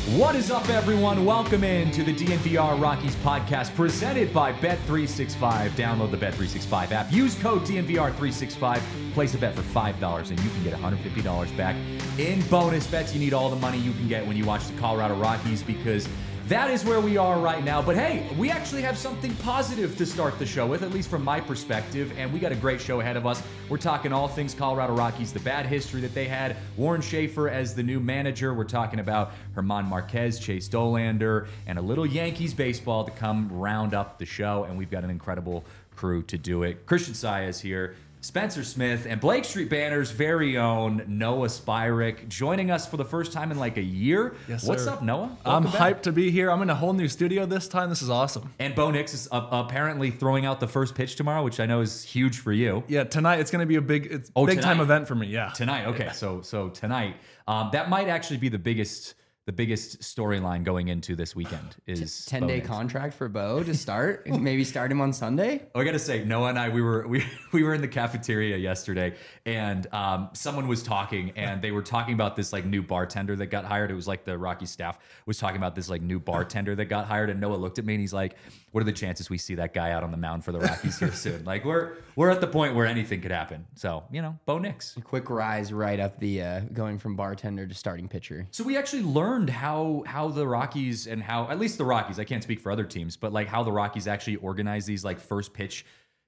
What is up, everyone? Welcome in to the DNVR Rockies podcast presented by Bet365. Download the Bet365 app. Use code DNVR365. Place a bet for $5 and you can get $150 back in bonus bets. You need all the money you can get when you watch the Colorado Rockies because that is where we are right now. But hey, we actually have something positive to start the show with, at least from my perspective, and we got a great show ahead of us. We're talking all things Colorado Rockies, the bad history that they had, Warren Schaefer as the new manager. We're talking about German Marquez, Chase Dollander, and a little Yankees baseball to come round up the show, and we've got an incredible crew to do it. Christian Saez here, Spencer Smith, and Blake Street Banner's very own Noah Spyrick joining us for the first time in like a year. Yes, What's sir. up, Noah? I'm Welcome back. hyped to be here. I'm in a whole new studio this time. This is awesome. And Bo Nix is apparently throwing out the first pitch tomorrow, which I know is huge for you. Yeah, tonight it's going to be a big tonight? time event for me. Yeah. Tonight, okay. Yeah. So tonight, that might actually be the biggest storyline going into this weekend is 10-day contract for Bo to start. Maybe start him on Sunday. I gotta say, Noah and I, we were in the cafeteria yesterday, and someone was talking, and they were talking about this like new bartender that got hired. It was like the Rocky staff was talking about this like new bartender that got hired, and Noah looked at me and he's like, "What are the chances we see that guy out on the mound for the Rockies here soon?" Like we're at the point where anything could happen. So Bo Nix. A quick rise right up the going from bartender to starting pitcher. So we actually learned how the Rockies and how, at least the Rockies, I can't speak for other teams, but like how the Rockies actually organize these like first pitch,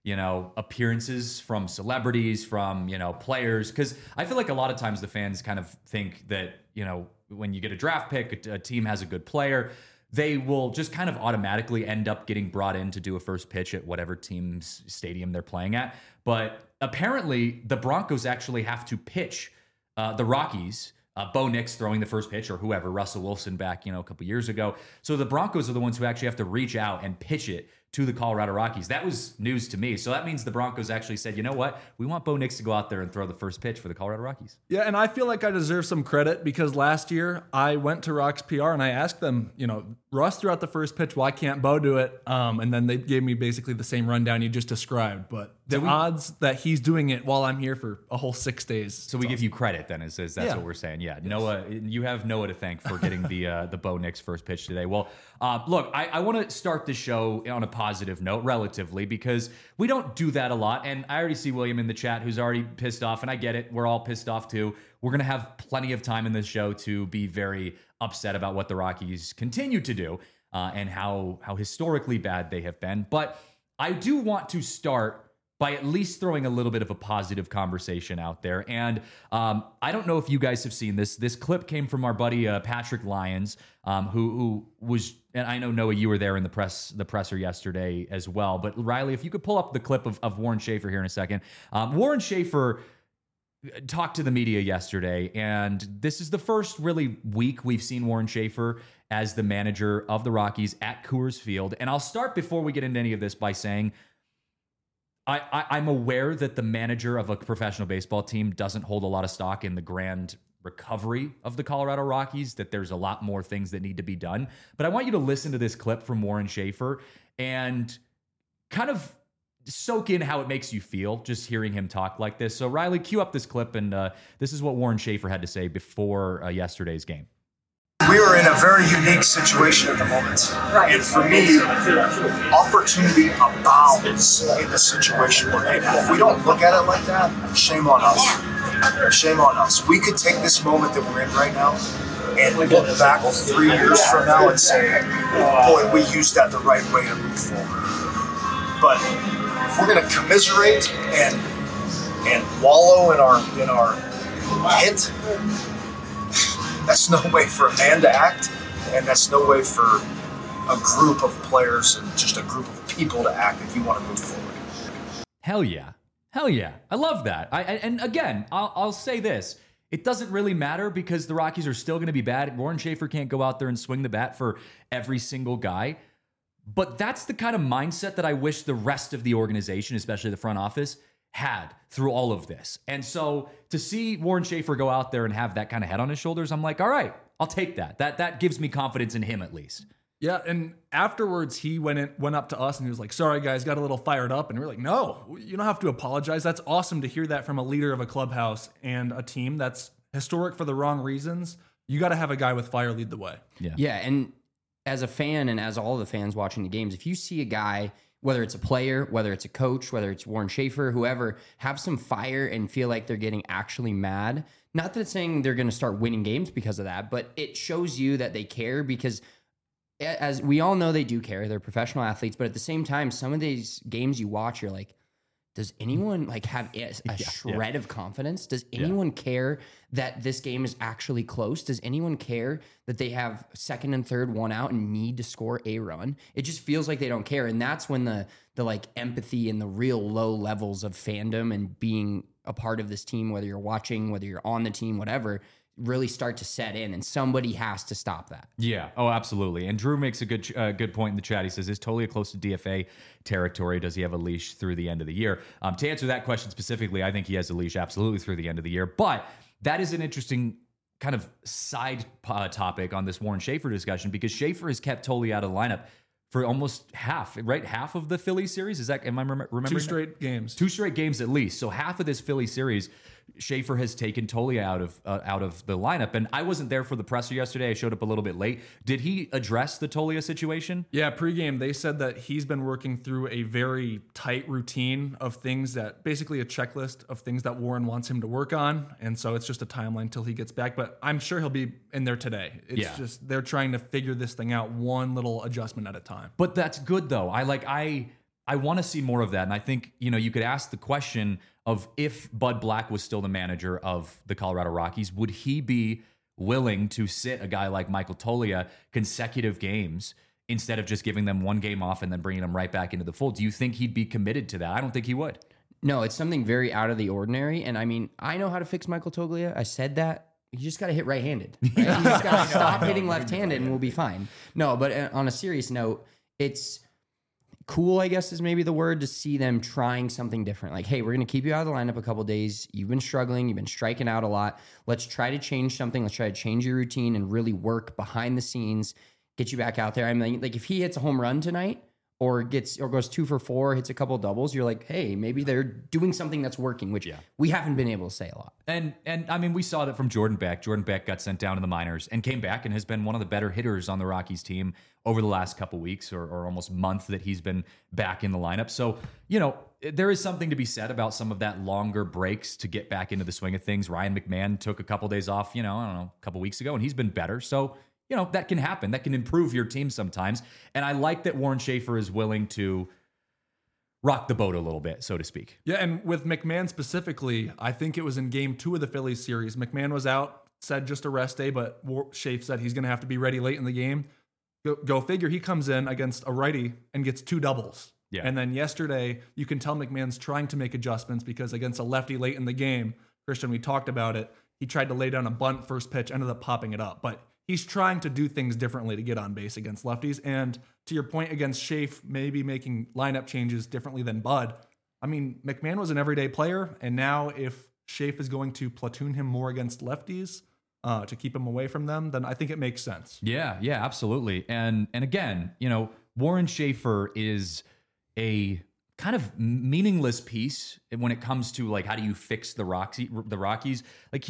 appearances from celebrities, from, players. Cause I feel like a lot of times the fans kind of think that, when you get a draft pick, a team has a good player, they will just kind of automatically end up getting brought in to do a first pitch at whatever team's stadium they're playing at. But apparently the Broncos actually have to pitch the Rockies, Bo Nix throwing the first pitch or whoever, Russell Wilson back, a couple years ago. So the Broncos are the ones who actually have to reach out and pitch it to the Colorado Rockies. That was news to me. So that means the Broncos actually said, you know what? We want Bo Nix to go out there and throw the first pitch for the Colorado Rockies. Yeah, and I feel like I deserve some credit because last year I went to Rock's PR and I asked them, Russ threw out the first pitch. Why can't Bo do it? And then they gave me basically the same rundown you just described. But the odds that he's doing it while I'm here for a whole 6 days. So we give you credit then, is that's what we're saying. Yeah, yes. Noah, you have Noah to thank for getting the Bo Nix first pitch today. Well, look, I want to start the show on a positive note, relatively, because we don't do that a lot. And I already see William in the chat who's already pissed off, and I get it. We're all pissed off too. We're going to have plenty of time in this show to be very upset about what the Rockies continue to do and how historically bad they have been. But I do want to start by at least throwing a little bit of a positive conversation out there. And I don't know if you guys have seen this. This clip came from our buddy Patrick Lyons, who was, and I know, Noah, you were there in the presser yesterday as well. But Riley, if you could pull up the clip of Warren Schaefer here in a second. Warren Schaefer talked to the media yesterday, and this is the first really week we've seen Warren Schaefer as the manager of the Rockies at Coors Field. And I'll start before we get into any of this by saying, I'm aware that the manager of a professional baseball team doesn't hold a lot of stock in the grand recovery of the Colorado Rockies, that there's a lot more things that need to be done. But I want you to listen to this clip from Warren Schaefer and kind of soak in how it makes you feel just hearing him talk like this. So Riley, cue up this clip, and this is what Warren Schaefer had to say before yesterday's game. We are in a very unique situation at the moment. Right. And for me, opportunity abounds in the situation we're in. If we don't look at it like that, shame on us. Shame on us. We could take this moment that we're in right now and look back 3 years from now and say, boy, we used that the right way to move forward. But if we're going to commiserate and wallow in our pit, that's no way for a man to act, and that's no way for a group of players and just a group of people to act if you want to move forward. Hell yeah. Hell yeah. I love that. And again, I'll say this. It doesn't really matter because the Rockies are still going to be bad. Warren Schaefer can't go out there and swing the bat for every single guy. But that's the kind of mindset that I wish the rest of the organization, especially the front office, had through all of this. And so to see Warren Schaefer go out there and have that kind of head on his shoulders, I'm like, all right, I'll take that. That gives me confidence in him at least. Yeah, and afterwards he went up to us and he was like, sorry guys, got a little fired up. And we were like, no, you don't have to apologize. That's awesome to hear that from a leader of a clubhouse and a team that's historic for the wrong reasons, you got to have a guy with fire lead the way. Yeah, and as a fan and as all the fans watching the games, if you see a guy, whether it's a player, whether it's a coach, whether it's Warren Schaefer, whoever, have some fire and feel like they're getting actually mad, not that it's saying they're going to start winning games because of that, but it shows you that they care, because as we all know, they do care. They're professional athletes, but at the same time, some of these games you watch, you're like, does anyone like have a shred of confidence? Does anyone care that this game is actually close? Does anyone care that they have second and third one out and need to score a run? It just feels like they don't care. And that's when the like empathy and the real low levels of fandom and being a part of this team, whether you're watching, whether you're on the team, whatever, really start to set in, and somebody has to stop that. Yeah. Oh, absolutely. And Drew makes a good point in the chat. He says, is Toglia close to DFA territory? Does he have a leash through the end of the year? To answer that question specifically, I think he has a leash absolutely through the end of the year. But that is an interesting kind of side topic on this Warren Schaefer discussion, because Schaefer has kept Toglia out of the lineup for almost half, right? Half of the Philly series. Is that, am I remembering? 2 straight games. 2 straight games at least. So half of this Philly series, Schaefer has taken Toglia out of the lineup. And I wasn't there for the presser yesterday. I showed up a little bit late. Did he address the Toglia situation? Yeah, pregame, they said that he's been working through a very tight routine of things, that basically a checklist of things that Warren wants him to work on. And so it's just a timeline till he gets back. But I'm sure he'll be in there today. It's just they're trying to figure this thing out one little adjustment at a time. But that's good, though. I want to see more of that. And I think, you could ask the question of, if Bud Black was still the manager of the Colorado Rockies, would he be willing to sit a guy like Michael Toglia consecutive games instead of just giving them one game off and then bringing them right back into the fold? Do you think he'd be committed to that? I don't think he would. No, it's something very out of the ordinary. And I mean, I know how to fix Michael Toglia. I said that. You just got to hit right-handed. Right? You just got to stop hitting left-handed and we'll be fine. No, but on a serious note, it's cool, I guess is maybe the word, to see them trying something different. Like, hey, we're going to keep you out of the lineup a couple days. You've been struggling. You've been striking out a lot. Let's try to change something. Let's try to change your routine and really work behind the scenes, get you back out there. I mean, like if he hits a home run tonight or goes 2 for 4, hits a couple doubles, you're like, hey, maybe they're doing something that's working, which we haven't been able to say a lot. And I mean, we saw that from Jordan Beck. Jordan Beck got sent down to the minors and came back and has been one of the better hitters on the Rockies team over the last couple weeks or almost month that he's been back in the lineup. So, there is something to be said about some of that longer breaks to get back into the swing of things. Ryan McMahon took a couple days off, a couple weeks ago, and he's been better. So, that can happen. That can improve your team sometimes. And I like that Warren Schaefer is willing to rock the boat a little bit, so to speak. Yeah, and with McMahon specifically, I think it was in game 2 of the Phillies series. McMahon was out, said just a rest day, but Schaefer said he's going to have to be ready late in the game. Go figure, he comes in against a righty and gets 2 doubles. Yeah. And then yesterday, you can tell McMahon's trying to make adjustments because against a lefty late in the game, Christian, we talked about it, he tried to lay down a bunt first pitch, ended up popping it up. But he's trying to do things differently to get on base against lefties. And to your point, against Schaefer, maybe making lineup changes differently than Bud. I mean, McMahon was an everyday player, and now if Schaefer is going to platoon him more against lefties to keep him away from them, then I think it makes sense. Yeah, absolutely. And again, Warren Schaefer is a kind of meaningless piece when it comes to like, how do you fix the Rockies? Like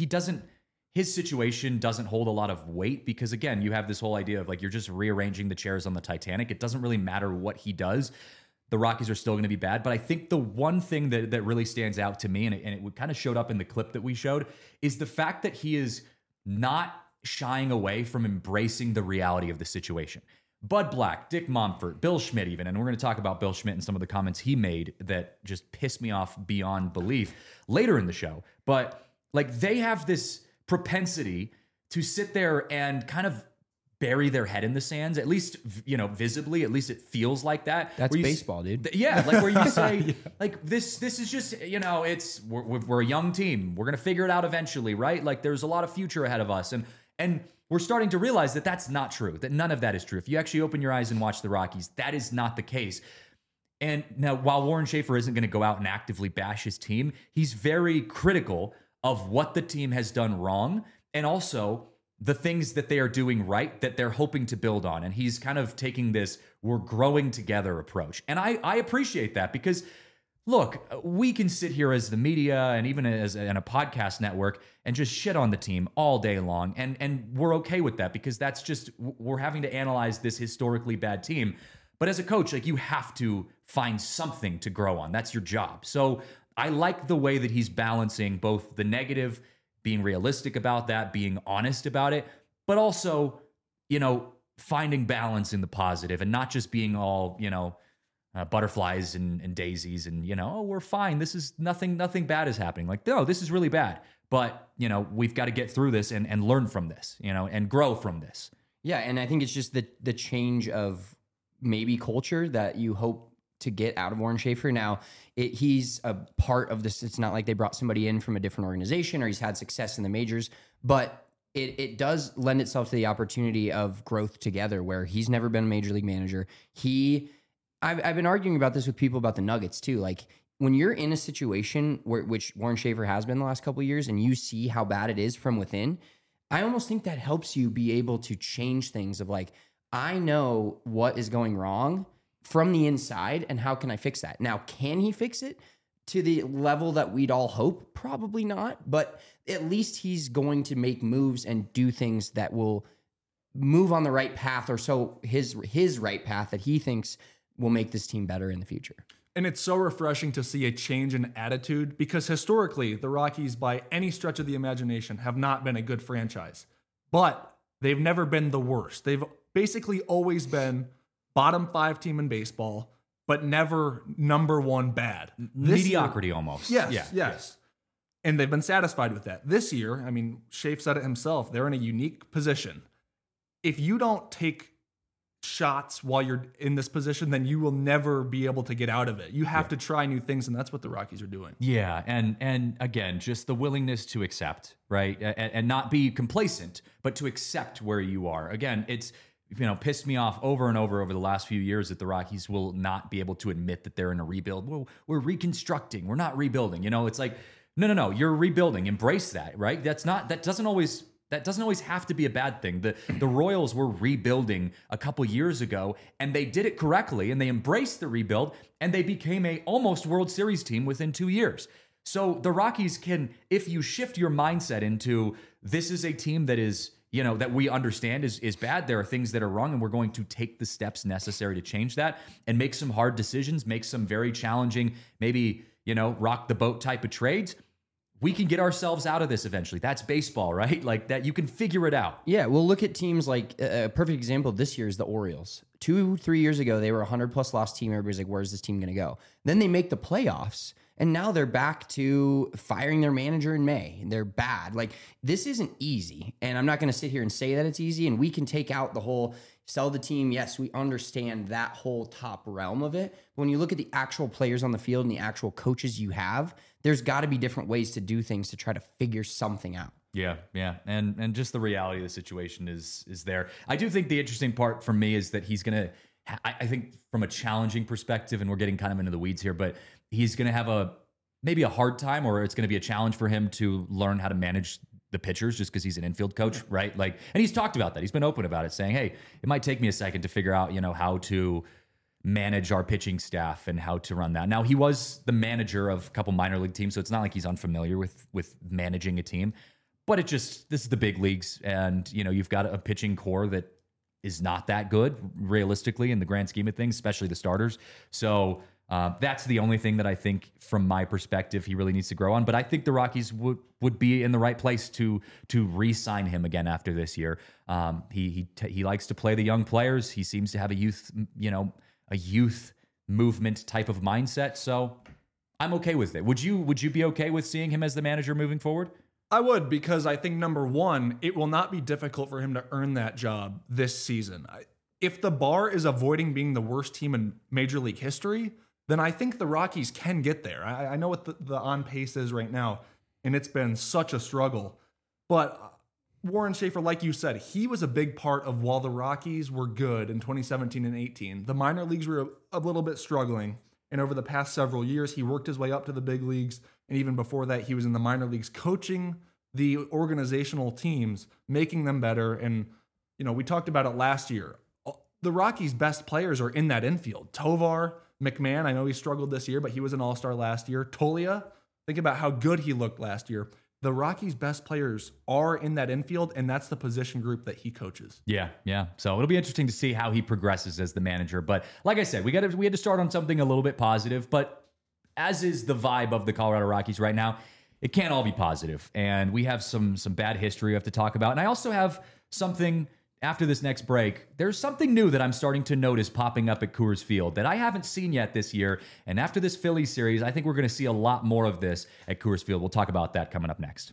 his situation doesn't hold a lot of weight because, again, you have this whole idea of like you're just rearranging the chairs on the Titanic. It doesn't really matter what he does. The Rockies are still going to be bad. But I think the one thing that really stands out to me, and it kind of showed up in the clip that we showed, is the fact that he is not shying away from embracing the reality of the situation. Bud Black, Dick Monfort, Bill Schmidt even, and we're going to talk about Bill Schmidt and some of the comments he made that just pissed me off beyond belief later in the show. But like they have this propensity to sit there and kind of bury their head in the sands, at least, visibly, at least it feels like that. That's baseball, dude. Yeah. Like where you say, like, this is just, we're a young team. We're going to figure it out eventually, right? Like there's a lot of future ahead of us. And we're starting to realize that that's not true, that none of that is true. If you actually open your eyes and watch the Rockies, that is not the case. And now, while Warren Schaefer isn't going to go out and actively bash his team, he's very critical of what the team has done wrong and also the things that they are doing right that they're hoping to build on. And he's kind of taking this we're growing together approach. And I appreciate that because look, we can sit here as the media and even as in a podcast network and just shit on the team all day long. And we're okay with that because that's just, we're having to analyze this historically bad team. But as a coach, like, you have to find something to grow on. That's your job. So I like the way that he's balancing both the negative, being realistic about that, being honest about it, but also, finding balance in the positive and not just being all, butterflies and daisies and, oh, we're fine. This is nothing bad is happening. Like, no, this is really bad. But, we've got to get through this and learn from this, and grow from this. Yeah. And I think it's just the change of maybe culture that you hope to get out of Warren Schaefer. Now, he's a part of this. It's not like they brought somebody in from a different organization or he's had success in the majors, but it does lend itself to the opportunity of growth together where he's never been a major league manager. I've been arguing about this with people about the Nuggets too. Like, when you're in a situation which Warren Schaefer has been the last couple of years and you see how bad it is from within, I almost think that helps you be able to change things of like, I know what is going wrong from the inside and how can I fix that? Now, can he fix it to the level that we'd all hope? Probably not, but at least he's going to make moves and do things that will move on the right path, or so his right path that he thinks will make this team better in the future. And it's so refreshing to see a change in attitude because historically, the Rockies, by any stretch of the imagination, have not been a good franchise. But they've never been the worst. They've basically always been bottom 5 team in baseball, but never number 1 bad. Mediocrity almost. Yes. And they've been satisfied with that. This year, I mean, Schaefer said it himself, they're in a unique position. If you don't take shots while you're in this position, then you will never be able to get out of it. You have to try new things, and that's what the Rockies are doing. Yeah, and again, just the willingness to accept, right? And not be complacent, but to accept where you are. Again, it's pissed me off over and over the last few years that the Rockies will not be able to admit that they're in a rebuild. Well, we're reconstructing. We're not rebuilding. It's like, no, you're rebuilding. Embrace that, right? That doesn't always have to be a bad thing. The Royals were rebuilding a couple years ago, and they did it correctly, and they embraced the rebuild, and they became a almost World Series team within 2 years. So the Rockies can, if you shift your mindset into this is a team that is, that we understand is bad, there are things that are wrong, and we're going to take the steps necessary to change that and make some hard decisions, make some very challenging, maybe, rock the boat type of trades. We can get ourselves out of this eventually. That's baseball, right? Like that, you can figure it out. Yeah, we'll look at teams like a perfect example this year is the Orioles. 2-3 years ago, they were a 100+ loss team. Everybody's like, where's this team going to go? Then they make the playoffs, and now they're back to firing their manager in May. They're bad. Like, this isn't easy, and I'm not going to sit here and say that it's easy, and we can take out the whole sell the team. Yes, we understand that whole top realm of it. But when you look at the actual players on the field and the actual coaches you have, there's got to be different ways to do things to try to figure something out. Yeah. And just the reality of the situation is there. I do think the interesting part for me is that he's going to, I think from a challenging perspective, and we're getting kind of into the weeds here, but he's going to have maybe a hard time, or it's going to be a challenge for him to learn how to manage the pitchers just because he's an infield coach, right? Like, and he's talked about that. He's been open about it, saying, hey, it might take me a second to figure out, how to manage our pitching staff and how to run that. Now, he was the manager of a couple minor league teams, so it's not like he's unfamiliar with managing a team. But this is the big leagues, and you've got a pitching core that is not that good realistically in the grand scheme of things, especially the starters. So that's the only thing that I think, from my perspective, he really needs to grow on. But I think the Rockies would be in the right place to re-sign him again after this year. He likes to play the young players. He seems to have a youth movement type of mindset. So I'm okay with it. Would you be okay with seeing him as the manager moving forward? I would, because I think, number one, it will not be difficult for him to earn that job this season. If the bar is avoiding being the worst team in Major League history, then I think the Rockies can get there. I know what the on pace is right now, and it's been such a struggle. But Warren Schaefer, like you said, he was a big part of while the Rockies were good in 2017 and 18. The minor leagues were a little bit struggling. And over the past several years, he worked his way up to the big leagues. And even before that, he was in the minor leagues coaching the organizational teams, making them better. And, we talked about it last year. The Rockies' best players are in that infield. Tovar, McMahon, I know he struggled this year, but he was an all-star last year. Tolia, think about how good he looked last year. The Rockies' best players are in that infield, and that's the position group that he coaches. Yeah. So it'll be interesting to see how he progresses as the manager. But like I said, we had to start on something a little bit positive. But as is the vibe of the Colorado Rockies right now, it can't all be positive. And we have some bad history we have to talk about. And I also have something after this next break. There's something new that I'm starting to notice popping up at Coors Field that I haven't seen yet this year. And after this Phillies series, I think we're going to see a lot more of this at Coors Field. We'll talk about that coming up next.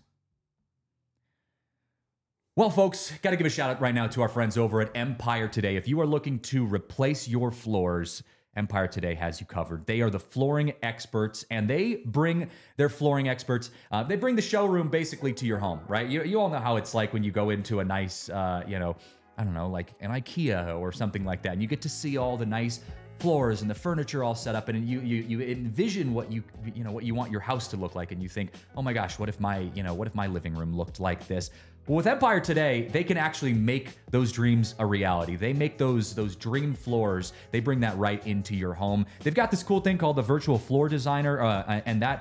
Well, folks, got to give a shout out right now to our friends over at Empire Today. If you are looking to replace your floors, Empire Today has you covered. They are the flooring experts, and they bring their flooring experts. They bring the showroom basically to your home, right? You all know how it's like when you go into a nice, I don't know, like an IKEA or something like that, and you get to see all the nice floors and the furniture all set up, and you envision what you want your house to look like, and you think, oh my gosh, what if my living room looked like this? Well, with Empire Today, they can actually make those dreams a reality. They make those dream floors. They bring that right into your home. They've got this cool thing called the Virtual Floor Designer, and that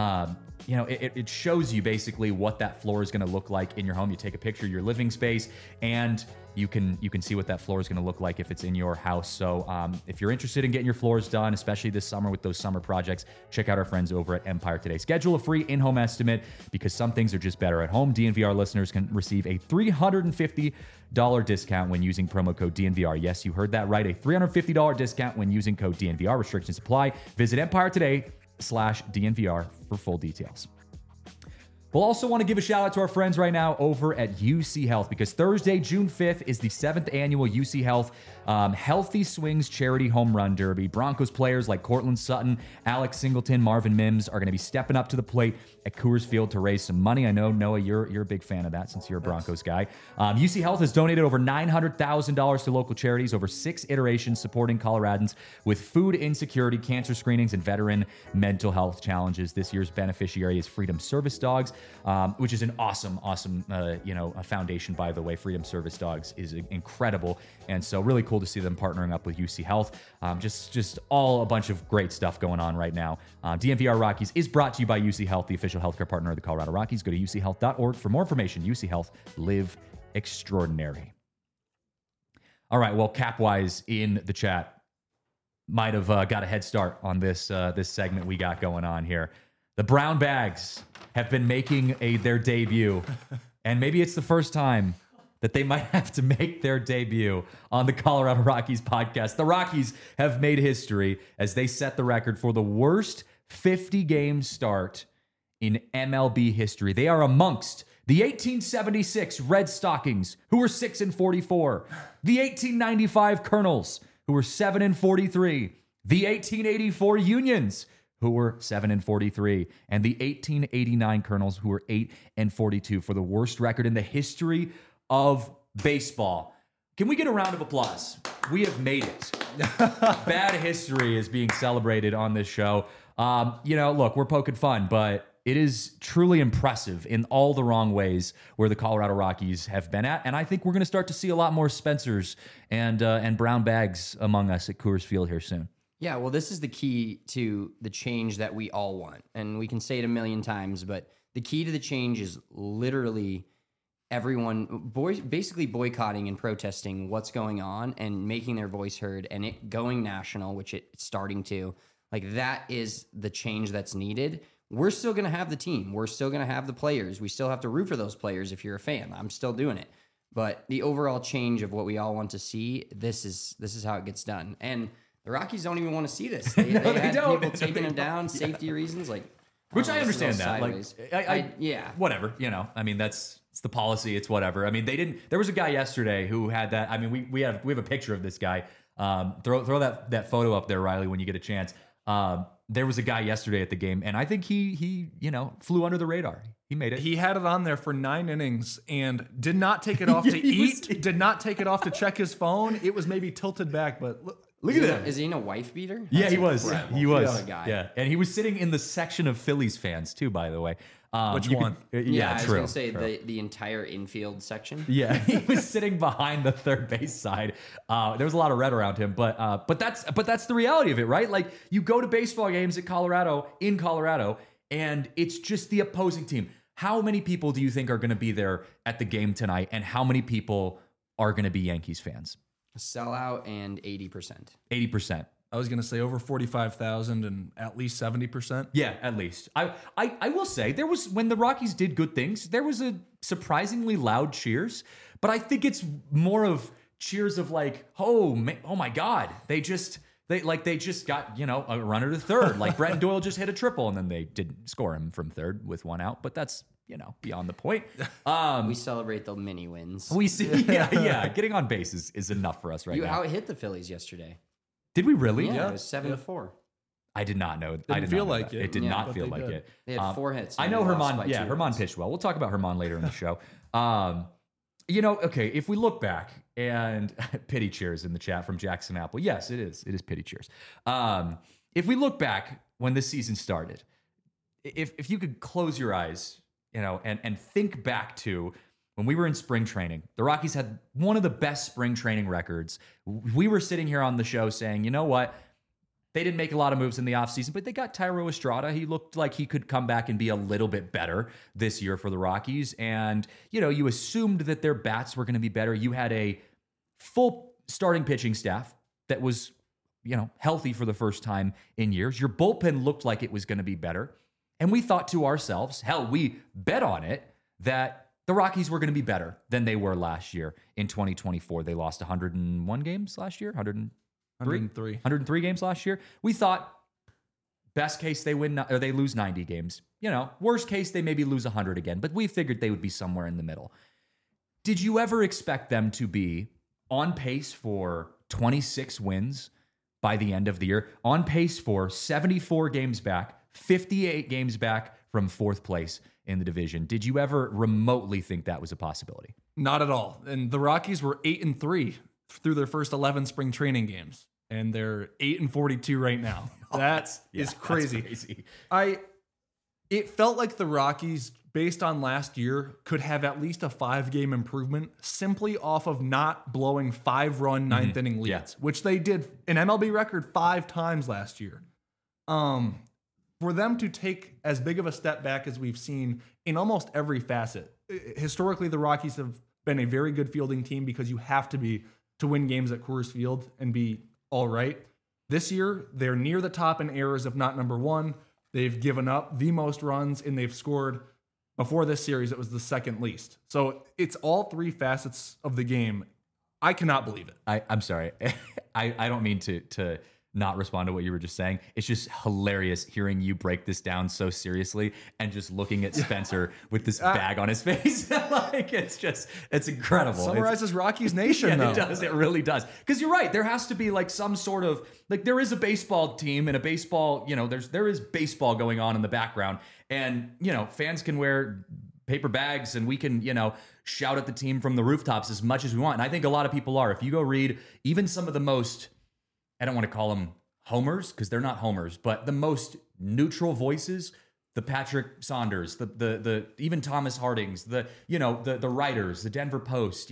it shows you basically what that floor is going to look like in your home. You take a picture of your living space, and you can see what that floor is going to look like if it's in your house. So if you're interested in getting your floors done, especially this summer with those summer projects, check out our friends over at Empire Today. Schedule a free in-home estimate because some things are just better at home. DNVR listeners can receive a $350 discount when using promo code DNVR. Yes, you heard that right. A $350 discount when using code DNVR. Restrictions apply. Visit Empire Today/DNVR for full details. We'll also want to give a shout out to our friends right now over at UC Health because Thursday, June 5th is the 7th annual UC Health Healthy Swings Charity Home Run Derby. Broncos players like Cortland Sutton, Alex Singleton, Marvin Mims are going to be stepping up to the plate at Coors Field to raise some money. I know, Noah, you're a big fan of that since you're a Broncos guy. UC Health has donated over $900,000 to local charities over 6 iterations supporting Coloradans with food insecurity, cancer screenings, and veteran mental health challenges. This year's beneficiary is Freedom Service Dogs, which is an awesome a foundation, by the way. Freedom Service Dogs is incredible, and so really cool to see them partnering up with UC Health. Just all a bunch of great stuff going on right now. DNVR Rockies is brought to you by UC Health, the official healthcare partner of the Colorado Rockies. Go to uchealth.org for more information. UC Health, live extraordinary. All right, well, Capwise in the chat might have got a head start on this segment we got going on here. The Brown Bags have been making their debut, and maybe it's the first time that they might have to make their debut on the Colorado Rockies podcast. The Rockies have made history as they set the record for the worst 50-game start in MLB history. They are amongst the 1876 Red Stockings, who were 6-44, the 1895 Colonels, who were 7-43, the 1884 Unions, who were 7-43, and the 1889 Colonels, who were 8-42 for the worst record in the history of baseball. Can we get a round of applause? We have made it. Bad history is being celebrated on this show. Look, we're poking fun, but it is truly impressive in all the wrong ways where the Colorado Rockies have been at. And I think we're going to start to see a lot more Spencers and Brown Bags among us at Coors Field here soon. Yeah, well, this is the key to the change that we all want. And we can say it a million times, but the key to the change is literally everyone basically boycotting and protesting what's going on and making their voice heard and it going national, which it's starting to. Like, that is the change that's needed. We're still going to have the team. We're still going to have the players. We still have to root for those players if you're a fan. I'm still doing it. But the overall change of what we all want to see, this is how it gets done. And the Rockies don't even want to see this. They had people taking them down, safety reasons, which I understand that. Sideways. Yeah, whatever. I mean, it's the policy. It's whatever. I mean, there was a guy yesterday who had that. I mean, we have a picture of this guy. Throw that photo up there, Riley, when you get a chance. There was a guy yesterday at the game, and I think he flew under the radar. He made it. He had it on there for 9 innings and did not take it off to eat. Did not take it off to check his phone. It was maybe tilted back, but look, Look at that. Is he in a wife beater? Yeah, That's he was. incredible. He was. What a guy. Yeah, and he was sitting in the section of Phillies fans too, by the way. Which you one? Yeah, I was true. gonna say true. the entire infield section. Yeah, he was sitting behind the third base side. There was a lot of red around him, but that's the reality of it, right? Like you go to baseball games in Colorado, and it's just the opposing team. How many people do you think are going to be there at the game tonight, and how many people are going to be Yankees fans? Sellout and 80%. 80%. I was going to say over 45,000 and at least 70%. Yeah, at least. I will say there was, when the Rockies did good things, there was a surprisingly loud cheers, but I think it's more of cheers of like, oh my God, they just got, a runner to third. Like Brett Doyle just hit a triple and then they didn't score him from third with one out, but that's, beyond the point. We celebrate the mini wins. We see, yeah. Getting on base is enough for us right You now. out-hit the Phillies yesterday. Did we really? Yeah, it was 7-4. I did not know. Didn't I did feel not know like that. it. It did Yeah, not but feel they like did. it. They had 4 hits. I and know they lost Herman. by Yeah, 2 Herman runs. pitched well. We'll talk about Herman later in the show. Okay, if we look back and pity cheers in the chat from Jackson Apple. Yes, it is. It is pity cheers. If we look back when this season started, if you could close your eyes, and think back to when we were in spring training, the Rockies had one of the best spring training records. We were sitting here on the show saying, you know what? They didn't make a lot of moves in the offseason, but they got Tyro Estrada. He looked like he could come back and be a little bit better this year for the Rockies. And, you assumed that their bats were going to be better. You had a full starting pitching staff that was, healthy for the first time in years. Your bullpen looked like it was going to be better. And we thought to ourselves, hell, we bet on it that the Rockies were going to be better than they were last year in 2024. They lost 101 games last year, 103 games last year. We thought best case they win or they lose 90 games. Worst case they maybe lose 100 again, but we figured they would be somewhere in the middle. Did you ever expect them to be on pace for 26 wins by the end of the year? On pace for 74 games back, 58 games back from fourth place in the division. Did you ever remotely think that was a possibility? Not at all. And the Rockies were 8-3 through their first 11 spring training games, and they're 8-42 right now. That is crazy. That's crazy. It felt like the Rockies, based on last year, could have at least a 5-game improvement simply off of not blowing 5-run ninth inning leads, which they did an MLB record 5 times last year. For them to take as big of a step back as we've seen in almost every facet. Historically, the Rockies have been a very good fielding team because you have to be to win games at Coors Field and be all right. This year, they're near the top in errors, if not number one. They've given up the most runs, and they've scored, before this series, it was the second least. So it's all 3 facets of the game. I cannot believe it. I'm sorry. I don't mean to not respond to what you were just saying. It's just hilarious hearing you break this down so seriously and just looking at Spencer with this bag on his face. It's incredible. Summarizes Rockies Nation, though. It does. It really does. Because you're right. There has to be like some sort of, like there is a baseball team and a baseball, there is baseball going on in the background. And, fans can wear paper bags and we can, shout at the team from the rooftops as much as we want. And I think a lot of people are. If you go read even some of the most, I don't want to call them homers because they're not homers, but the most neutral voices, the Patrick Saunders, the even Thomas Hardings, the writers, the Denver Post,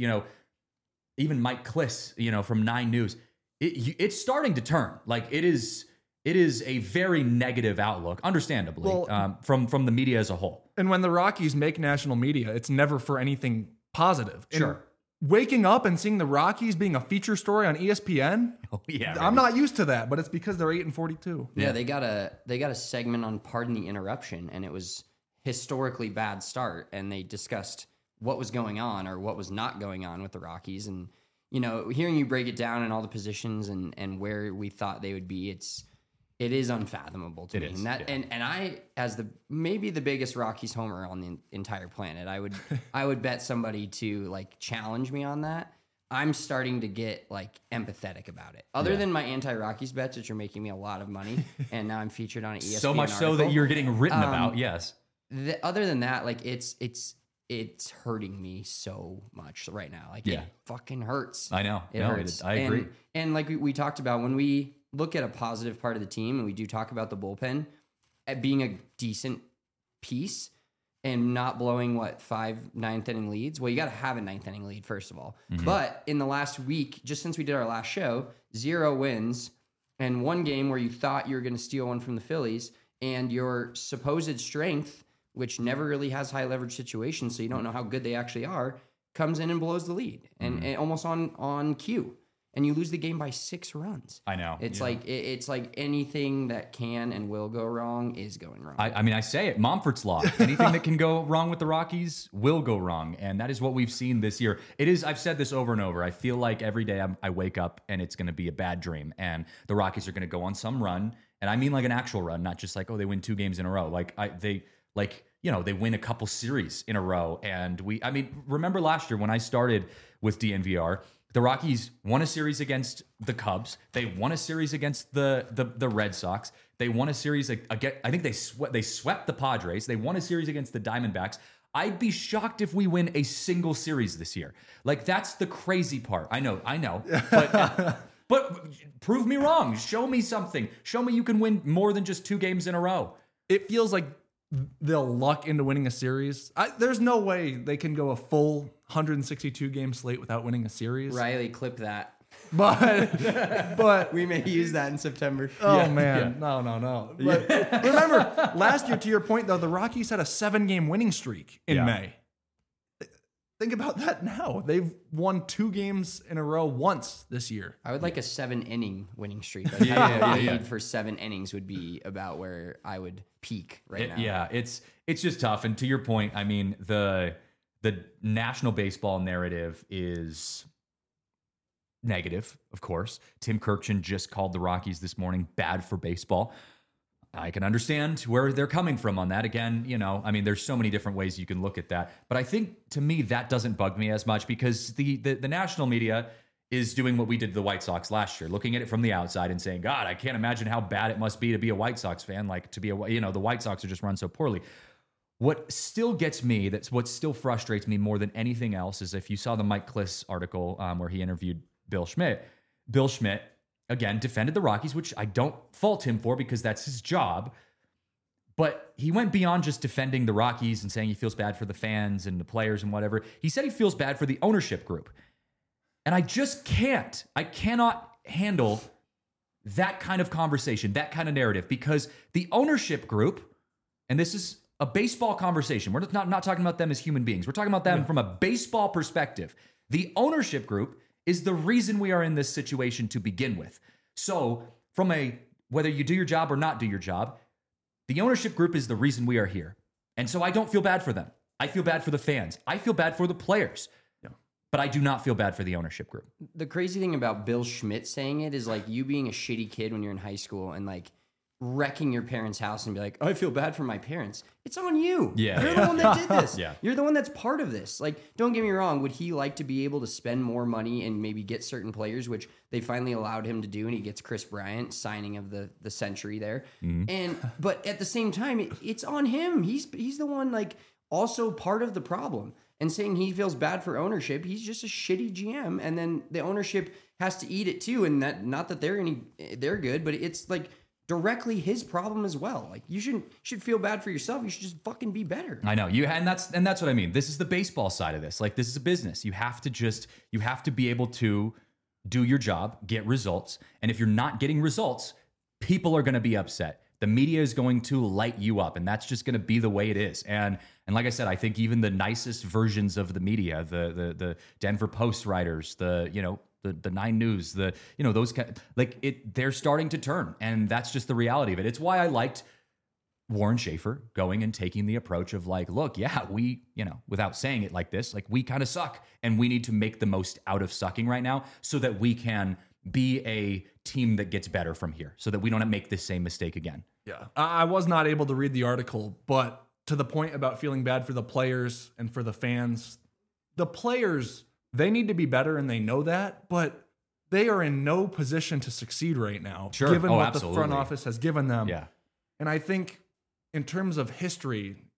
even Mike Kliss, from 9 News. It's starting to turn. Like it is a very negative outlook, understandably, from the media as a whole. And when the Rockies make national media, it's never for anything positive. Sure. And waking up and seeing the Rockies being a feature story on ESPN, I'm not used to that, but it's because they're 8-42. Yeah, they got a segment on Pardon the Interruption, and it was historically bad start, and they discussed what was going on or what was not going on with the Rockies. And hearing you break it down in all the positions and where we thought they would be, it is unfathomable to me. Is, and I, as maybe the biggest Rockies homer on the entire planet, I would bet somebody to like challenge me on that. I'm starting to get like empathetic about it. Other than my anti-Rockies bets, which are making me a lot of money, and now I'm featured on an ESPN so much article. so that you're getting written about. Yes. Other than that, like it's it's hurting me so much right now. Like Yeah. it fucking hurts. I know. It No, hurts. I agree. And like we talked about, when we look at a positive part of the team and we do talk about the bullpen at being a decent piece and not blowing 5 ninth inning leads. Well, you got to have a ninth inning lead, first of all. But in the last week, just since we did our last show, 0 wins and 1 game where you thought you were going to steal one from the Phillies, and your supposed strength, which never really has high leverage situations, so you don't know how good they actually are, comes in and blows the lead and almost on cue. And you lose the game by 6 runs. I know. It's like anything that can and will go wrong is going wrong. I mean, I say it, Momfort's law. Anything that can go wrong with the Rockies will go wrong. And that is what we've seen this year. It is, I've said this over and over. I feel like every day I wake up and it's going to be a bad dream. And the Rockies are going to go on some run. And I mean like an actual run, not just like, oh, they win 2 games in a row. They win a couple series in a row. And remember last year when I started with DNVR, the Rockies won a series against the Cubs. They won a series against the Red Sox. They won a series against, I think they swept the Padres. They won a series against the Diamondbacks. I'd be shocked if we win a single series this year. Like, that's the crazy part. I know. But prove me wrong. Show me something. Show me you can win more than just 2 games in a row. It feels like they'll luck into winning a series. There's no way they can go a full 162 game slate without winning a series. Riley, clip that. But We may use that in September. oh man, no. But remember, last year, to your point though, the Rockies had a 7-game winning streak in May. Think about that now. They've won 2 games in a row once this year. I would like a 7-inning winning streak. Like lead for 7 innings would be about where I would peak now. Yeah, it's just tough. And to your point, I mean, the national baseball narrative is negative, of course. Tim Kirkjian just called the Rockies this morning bad for baseball. I can understand where they're coming from on that. Again, there's so many different ways you can look at that. But I think, to me, that doesn't bug me as much because the national media is doing what we did to the White Sox last year, looking at it from the outside and saying, God, I can't imagine how bad it must be to be a White Sox fan. Like, the White Sox are just run so poorly. What still gets me, what still frustrates me more than anything else, is if you saw the Mike Kliss article where he interviewed Bill Schmidt, again, defended the Rockies, which I don't fault him for because that's his job. But he went beyond just defending the Rockies and saying he feels bad for the fans and the players and whatever. He said he feels bad for the ownership group. And I just can't. I cannot handle that kind of conversation, that kind of narrative, because the ownership group, and this is a baseball conversation. We're not talking about them as human beings. We're talking about them from a baseball perspective. The ownership group is the reason we are in this situation to begin with. So whether you do your job or not do your job, the ownership group is the reason we are here. And so I don't feel bad for them. I feel bad for the fans. I feel bad for the players. Yeah. But I do not feel bad for the ownership group. The crazy thing about Bill Schmidt saying it is like you being a shitty kid when you're in high school and like wrecking your parents' house and be like, I feel bad for my parents. It's on you. Yeah. You're the one that did this. Yeah. You're the one that's part of this. Like, don't get me wrong. Would he like to be able to spend more money and maybe get certain players, which they finally allowed him to do, and he gets Chris Bryant, signing of the century there. But at the same time, it's on him. He's the one like also part of the problem. And saying he feels bad for ownership, he's just a shitty GM, and then the ownership has to eat it too. And that, not that they're good, but it's like directly his problem as well. Like, you should feel bad for yourself. You should just fucking be better. I know and that's what I mean. This is the baseball side of this. Like, this is a business. You have to be able to do your job, get results. And if you're not getting results, people are going to be upset. The media is going to light you up, and that's just going to be the way it is. And like I said, I think even the nicest versions of the media, the Denver Post writers, the 9 News, those they're starting to turn, and that's just the reality of it. It's why I liked Warren Schaefer going and taking the approach of like, look, yeah, we, without saying it like this, like, we kind of suck, and we need to make the most out of sucking right now so that we can be a team that gets better from here, so that we don't make this same mistake again. Yeah, I was not able to read the article, but to the point about feeling bad for the players and for the fans, the players, they need to be better, and they know that, but they are in no position to succeed right now, given what the front office has given them. Yeah. And I think in terms of history,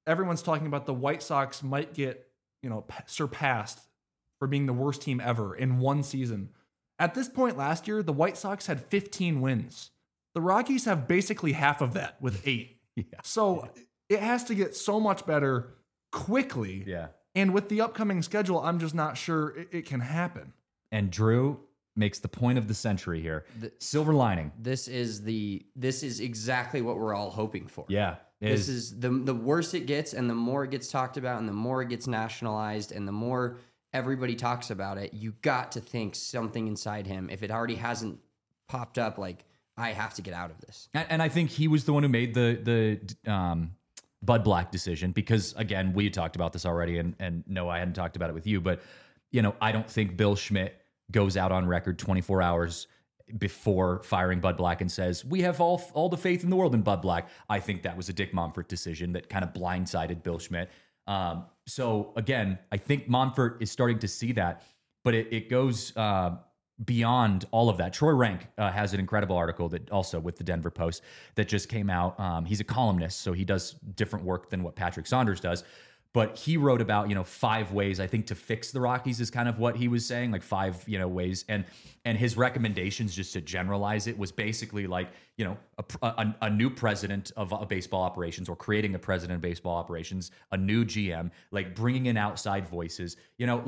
everyone's talking about the White Sox might get, surpassed for being the worst team ever in one season. At this point last year, the White Sox had 15 wins. The Rockies have basically half of that with 8. Yeah. So it has to get so much better quickly. Yeah. And with the upcoming schedule, I'm just not sure it can happen. And Drew makes the point of the century here. Silver lining. This is exactly what we're all hoping for. Yeah. This is the worse it gets, and the more it gets talked about, and the more it gets nationalized, and the more everybody talks about it, you got to think something inside him, if it already hasn't popped up, like, I have to get out of this. And I think he was the one who made the Bud Black decision, because, again, we talked about this already, and no, I hadn't talked about it with you, but, I don't think Bill Schmidt goes out on record 24 hours before firing Bud Black and says, we have all the faith in the world in Bud Black. I think that was a Dick Monfort decision that kind of blindsided Bill Schmidt. So again, I think Monfort is starting to see that, but it goes beyond all of that. Troy Rank has an incredible article that also with the Denver Post that just came out. He's a columnist, so he does different work than what Patrick Saunders does. But he wrote about, 5 ways, I think, to fix the Rockies is kind of what he was saying, like 5, ways. And his recommendations, just to generalize it, was basically like, a new president of baseball operations, or creating a president of baseball operations, a new GM, like bringing in outside voices,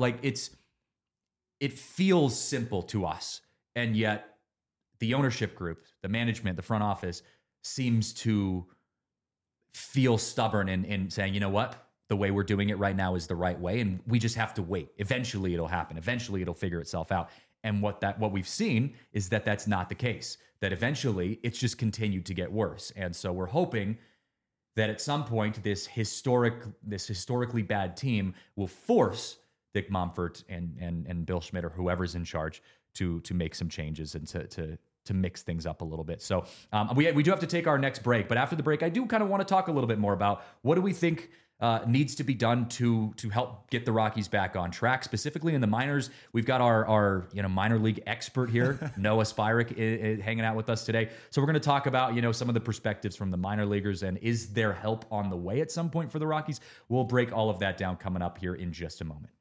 it feels simple to us. And yet the ownership group, the management, the front office seems to feel stubborn in saying, you know what? The way we're doing it right now is the right way, and we just have to wait. Eventually it'll happen. Eventually it'll figure itself out. And what we've seen is that that's not the case, that eventually it's just continued to get worse. And so we're hoping that at some point this historically bad team will force Dick Monfort and Bill Schmidt, or whoever's in charge, to make some changes and to mix things up a little bit. So we do have to take our next break, but after the break, I do kind of want to talk a little bit more about what do we think needs to be done to help get the Rockies back on track, specifically in the minors. We've got our minor league expert here, Noah Spyrick, hanging out with us today. So we're going to talk about some of the perspectives from the minor leaguers, and is there help on the way at some point for the Rockies? We'll break all of that down coming up here in just a moment.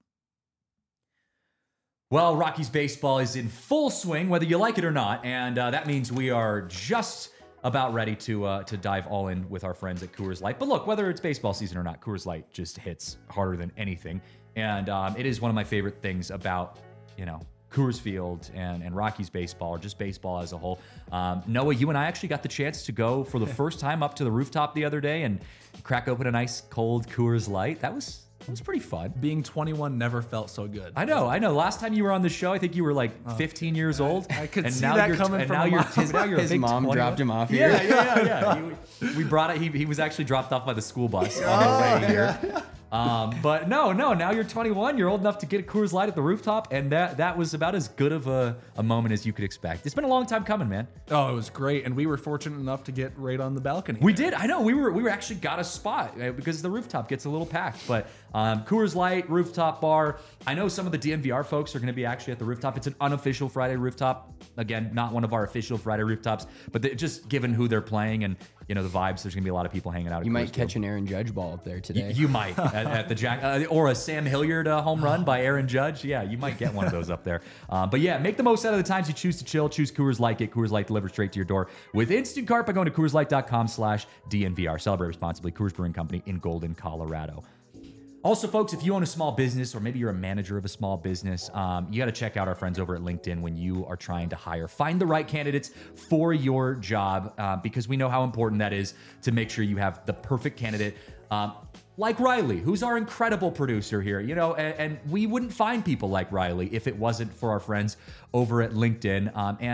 Well, Rockies baseball is in full swing, whether you like it or not, and that means we are just about ready to dive all in with our friends at Coors Light. But look, whether it's baseball season or not, Coors Light just hits harder than anything. And it is one of my favorite things about, Coors Field and Rockies baseball, or just baseball as a whole. Noah, you and I actually got the chance to go for the first time up to the rooftop the other day and crack open a nice cold Coors Light. That was pretty fun. Being 21 never felt so good. I know. Last time you were on the show, I think you were like 15 years old. I could see that coming from his mom 20. Dropped him off here. Yeah. We brought it. He was actually dropped off by the school bus on the way here. But no, now you're 21. You're old enough to get a Coors Light at the rooftop, and that was about as good of a moment as you could expect. It's been a long time coming, man. Oh, it was great, and we were fortunate enough to get right on the balcony. We did. I know. We were actually got a spot because the rooftop gets a little packed. But Coors Light rooftop bar. I know some of the DNVR folks are going to be actually at the rooftop. It's an unofficial Friday rooftop. Again, not one of our official Friday rooftops, but just given who they're playing and the vibes, there's going to be a lot of people hanging out. You might catch an Aaron Judge ball up there today. You might at the Jack or a Sam Hilliard home run by Aaron Judge. Yeah, you might get one of those up there. But yeah, make the most out of the times you choose to chill. Choose Coors Light. Get Coors Light delivered straight to your door with Instant Cart by going to CoorsLight.com/DNVR. Celebrate responsibly. Coors Brewing Company in Golden, Colorado. Also, folks, if you own a small business, or maybe you're a manager of a small business, you got to check out our friends over at LinkedIn when you are trying to hire. Find the right candidates for your job, because we know how important that is to make sure you have the perfect candidate. Like Riley, who's our incredible producer here, and we wouldn't find people like Riley if it wasn't for our friends over at LinkedIn.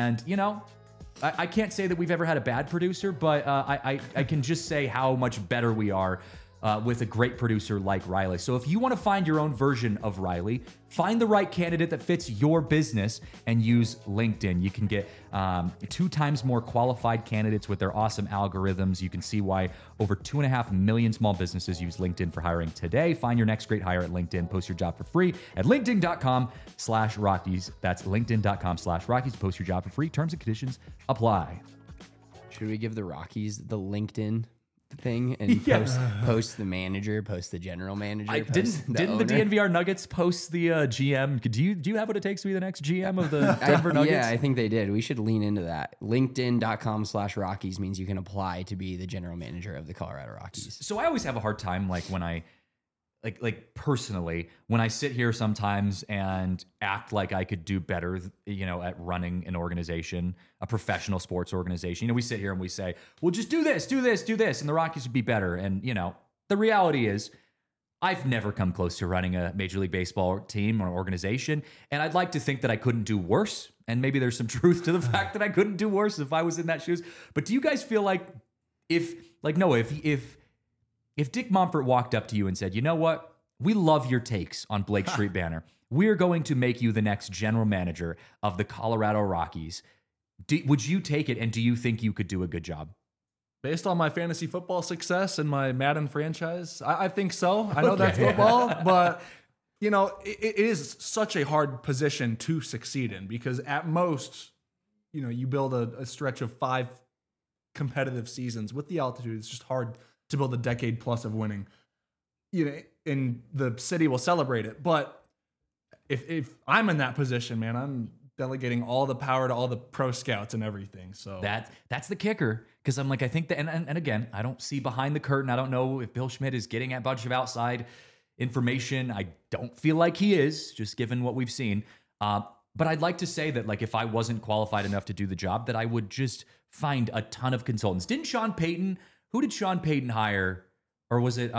I can't say that we've ever had a bad producer, but I can just say how much better we are with a great producer like Riley. So if you want to find your own version of Riley, find the right candidate that fits your business and use LinkedIn. You can get 2 times more qualified candidates with their awesome algorithms. You can see why over 2.5 million small businesses use LinkedIn for hiring today. Find your next great hire at LinkedIn. Post your job for free at linkedin.com/Rockies. That's linkedin.com/Rockies. Post your job for free. Terms and conditions apply. Should we give the Rockies the LinkedIn thing and post the manager, post the general manager. Didn't the DNVR Nuggets post the GM? Do you have what it takes to be the next GM of the Denver Nuggets? Yeah, I think they did. We should lean into that. LinkedIn.com/Rockies means you can apply to be the general manager of the Colorado Rockies. So I always have a hard time, like when I, like personally, when I sit here sometimes and act like I could do better, at running an organization, a professional sports organization. We sit here and we say, well, just do this, and the Rockies would be better. And, the reality is I've never come close to running a Major League Baseball team or organization. And I'd like to think that I couldn't do worse. And maybe there's some truth to the fact that I couldn't do worse if I was in that shoes. But do you guys feel like if Dick Monfort walked up to you and said, you know what? We love your takes on Blake Street Banner. We're going to make you the next general manager of the Colorado Rockies. Would you take it, and do you think you could do a good job? Based on my fantasy football success and my Madden franchise, I think so. I know that's football, but it is such a hard position to succeed in because at most, you build a stretch of 5 competitive seasons with the altitude. It's just hard to build a decade plus of winning. And the city will celebrate it. But if I'm in that position, man, I'm delegating all the power to all the pro scouts and everything. So that's the kicker. Because I'm like, I think that, and again, I don't see behind the curtain. I don't know if Bill Schmidt is getting a bunch of outside information. I don't feel like he is, just given what we've seen. But I'd like to say that, like, if I wasn't qualified enough to do the job, that I would just find a ton of consultants. Who did Sean Payton hire? Or was it,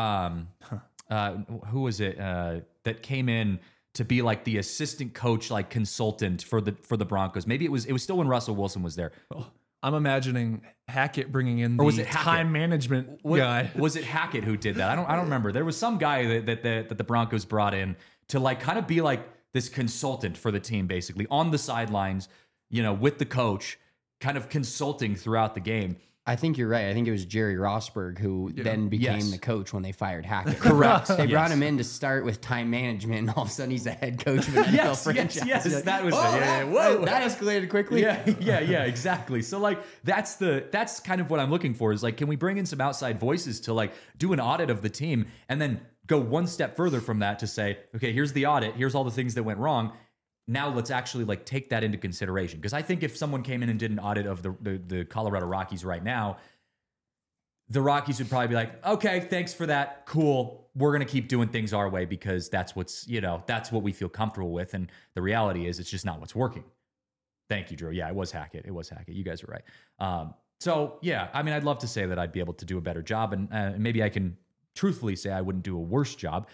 who was it that came in to be like the assistant coach, like consultant for the Broncos? Maybe it was still when Russell Wilson was there. I'm imagining Hackett bringing in the time management guy. Was it Hackett who did that? I don't remember. There was some guy that the Broncos brought in to like kind of be like this consultant for the team, basically on the sidelines, with the coach, kind of consulting throughout the game. I think you're right. I think it was Jerry Rosberg who then became the coach when they fired Hackett. Correct. They brought him in to start with time management, and all of a sudden he's the head coach of an NFL franchise. Yes, that was that escalated quickly. Yeah, exactly. So like that's kind of what I'm looking for is like, can we bring in some outside voices to like do an audit of the team and then go one step further from that to say, okay, here's the audit, here's all the things that went wrong. Now let's actually like take that into consideration. Because I think if someone came in and did an audit of the Colorado Rockies right now, the Rockies would probably be like, okay, thanks for that. Cool. We're going to keep doing things our way because that's that's what we feel comfortable with. And the reality is it's just not what's working. Thank you, Drew. Yeah, it was Hackett. You guys are right. So yeah, I mean, I'd love to say that I'd be able to do a better job, and maybe I can truthfully say I wouldn't do a worse job.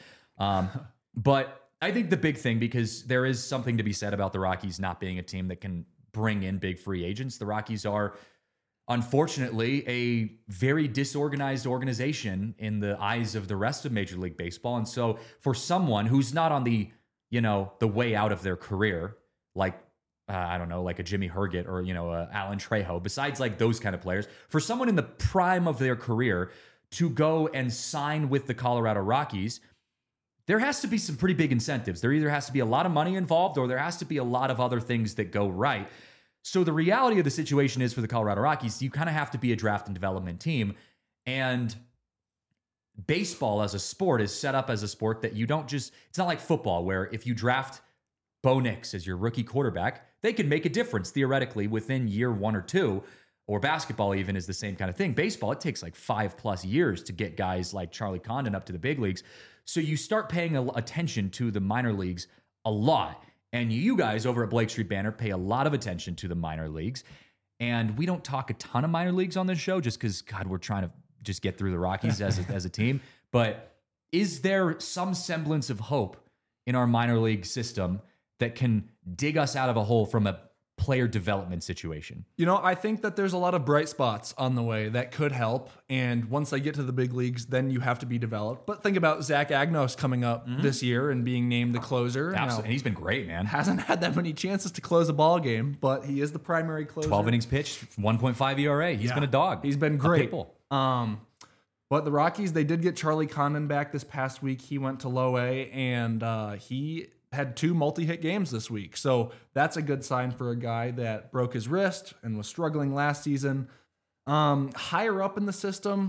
But I think the big thing, because there is something to be said about the Rockies not being a team that can bring in big free agents. The Rockies are, unfortunately, a very disorganized organization in the eyes of the rest of Major League Baseball. And so for someone who's not on the way out of their career, like, I don't know, like a Jimmy Herget or, Alan Trejo, besides like those kind of players, for someone in the prime of their career to go and sign with the Colorado Rockies, there has to be some pretty big incentives. There either has to be a lot of money involved or there has to be a lot of other things that go right. So the reality of the situation is for the Colorado Rockies, you kind of have to be a draft and development team. And baseball as a sport is set up as a sport that you don't just, it's not like football where if you draft Bo Nix as your rookie quarterback, they can make a difference theoretically within year 1 or 2. Or basketball even is the same kind of thing. Baseball, it takes like 5+ years to get guys like Charlie Condon up to the big leagues. So you start paying attention to the minor leagues a lot. And you guys over at Blake Street Banner pay a lot of attention to the minor leagues. And we don't talk a ton of minor leagues on this show just because, God, we're trying to just get through the Rockies as a team. But is there some semblance of hope in our minor league system that can dig us out of a hole from a player development situation? I think that there's a lot of bright spots on the way that could help. And once they get to the big leagues, then you have to be developed. But think about Zach Agnos coming up this year and being named the closer. Absolutely. And he's been great, man. Hasn't had that many chances to close a ball game, but he is the primary closer. 12 innings pitched, 1.5 ERA. He's been a dog. He's been great. But the Rockies, they did get Charlie Condon back this past week. He went to low A, and he had 2 multi-hit games this week. So that's a good sign for a guy that broke his wrist and was struggling last season. Higher up in the system,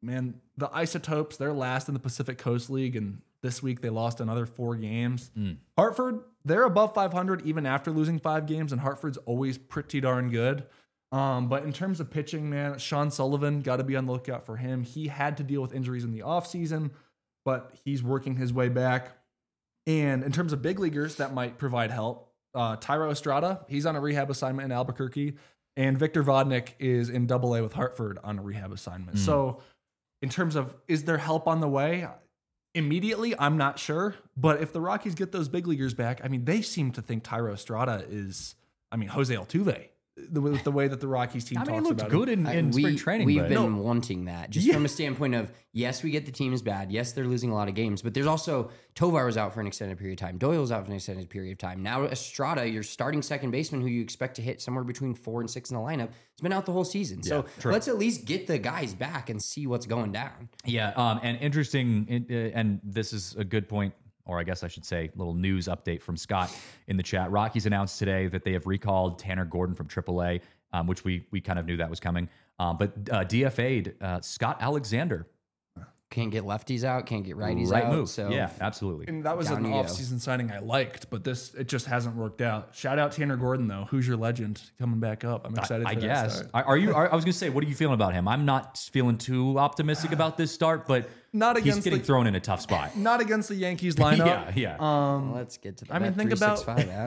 man, the Isotopes, they're last in the Pacific Coast League, and this week they lost another 4 games. Hartford, they're above 500 even after losing 5 games, and Hartford's always pretty darn good. But in terms of pitching, man, Sean Sullivan, got to be on the lookout for him. He had to deal with injuries in the offseason, but he's working his way back. And in terms of big leaguers that might provide help, Tyro Estrada, he's on a rehab assignment in Albuquerque, and Victor Vodnik is in AA with Hartford on a rehab assignment. So in terms of, is there help on the way? Immediately, I'm not sure. But if the Rockies get those big leaguers back, I mean, they seem to think Tyro Estrada is, Jose Altuve. With the way that the Rockies team talks about he looked good in spring training. We've been wanting that just from a standpoint of, yes, we get the team is bad. Yes, they're losing a lot of games, but there's also Tovar was out for an extended period of time. Doyle was out for an extended period of time. Now Estrada, your starting second baseman who you expect to hit somewhere between 4 and 6 in the lineup, has been out the whole season. So let's at least get the guys back and see what's going down. Yeah, and interesting, and this is a good point, or I guess I should say, little news update from Scott in the chat. Rockies announced today that they have recalled Tanner Gordon from AAA, which we kind of knew that was coming. But DFA'd Scott Alexander. Can't get lefties out, can't get righties Right out. move. So Yeah, absolutely. And that was an off-season signing I liked, but it just hasn't worked out. Shout out Tanner Gordon, though. Who's your legend coming back up? I'm excited for I that guess. start. I was going to say, what are you feeling about him? I'm not feeling too optimistic about this start, but Not he's against getting thrown in a tough spot. Not against the Yankees lineup. Yeah. let's get to the think about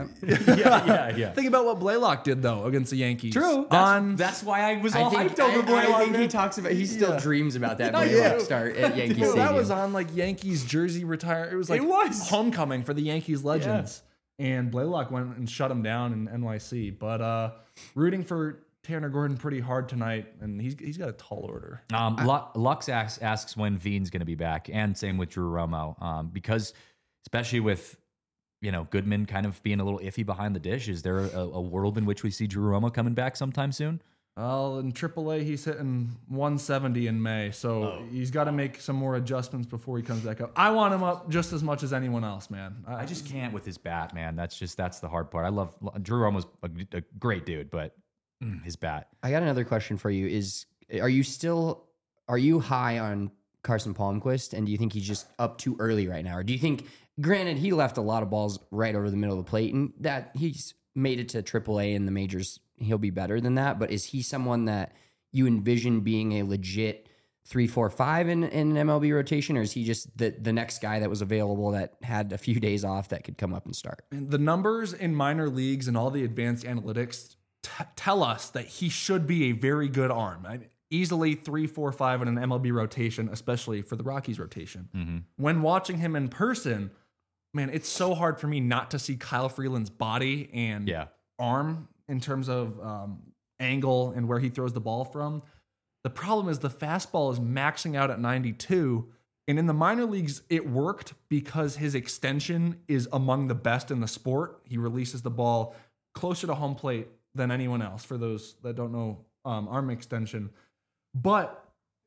365 app. Yeah. Think about what Blaylock did though against the Yankees. True. That's why I was all hyped over I Blaylock. think he talks about. He still dreams about that No, Blaylock yeah. start at Yankee Dude, Stadium. that was on like Yankees jersey retire. It was like homecoming for the Yankees legends. And Blaylock went and shut him down in NYC. But rooting for Tanner Gordon pretty hard tonight, and he's got a tall order. Lux asks when Veen's going to be back, and same with Drew Romo, because especially with Goodman kind of being a little iffy behind the dish, is there a world in which we see Drew Romo coming back sometime soon? Well, in AAA, he's hitting 170 in May, so he's got to make some more adjustments before he comes back up. I want him up just as much as anyone else, man. I just can't with his bat, man. That's the hard part. I love Drew Romo's a great dude, but his bat. I got another question for you. Are you high on Carson Palmquist, and do you think he's just up too early right now? Or do you think, granted, he left a lot of balls right over the middle of the plate, and that he's made it to AAA in the majors, he'll be better than that, but is he someone that you envision being a legit 3-4-5 in an MLB rotation, or is he just the next guy that was available that had a few days off that could come up and start? And the numbers in minor leagues and all the advanced analytics tell us that he should be a very good arm. Easily 3-4-5 in an MLB rotation, especially for the Rockies rotation. When watching him in person, man, it's so hard for me not to see Kyle Freeland's body and arm in terms of angle and where he throws the ball from. The problem is the fastball is maxing out at 92. And in the minor leagues, it worked because his extension is among the best in the sport. He releases the ball closer to home plate than anyone else, for those that don't know arm extension. But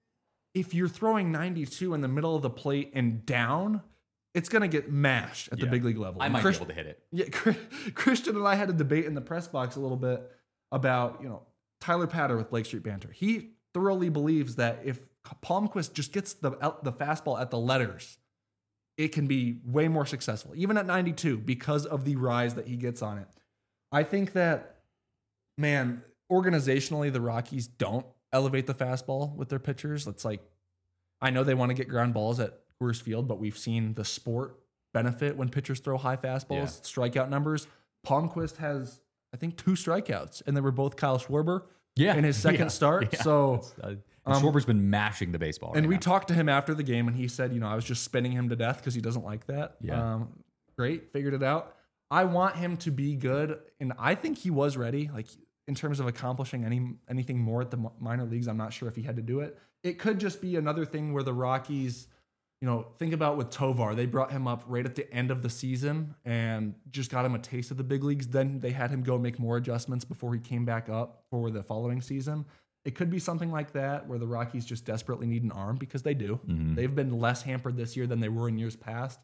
if you're throwing 92 in the middle of the plate and down, it's going to get mashed at the big league level. I might be able to hit it. Yeah, Christian and I had a debate in the press box a little bit about, Tyler Patter with Lake Street Banter. He thoroughly believes that if Palmquist just gets the fastball at the letters, it can be way more successful, even at 92, because of the rise that he gets on it. I think that, man, organizationally, the Rockies don't elevate the fastball with their pitchers. It's like, I know they want to get ground balls at Coors Field, but we've seen the sport benefit when pitchers throw high fastballs, strikeout numbers. Palmquist has, I think, 2 strikeouts, and they were both Kyle Schwarber in his second start. Yeah. So Schwarber's been mashing the baseball. And right we now. talked to him after the game, and he said, I was just spinning him to death because he doesn't like that. Yeah. Great, figured it out. I want him to be good, and I think he was ready. Like, in terms of accomplishing anything more at the minor leagues, I'm not sure if he had to do it. It could just be another thing where the Rockies, think about with Tovar. They brought him up right at the end of the season and just got him a taste of the big leagues. Then they had him go make more adjustments before he came back up for the following season. It could be something like that where the Rockies just desperately need an arm, because they do. They've been less hampered this year than they were in years past.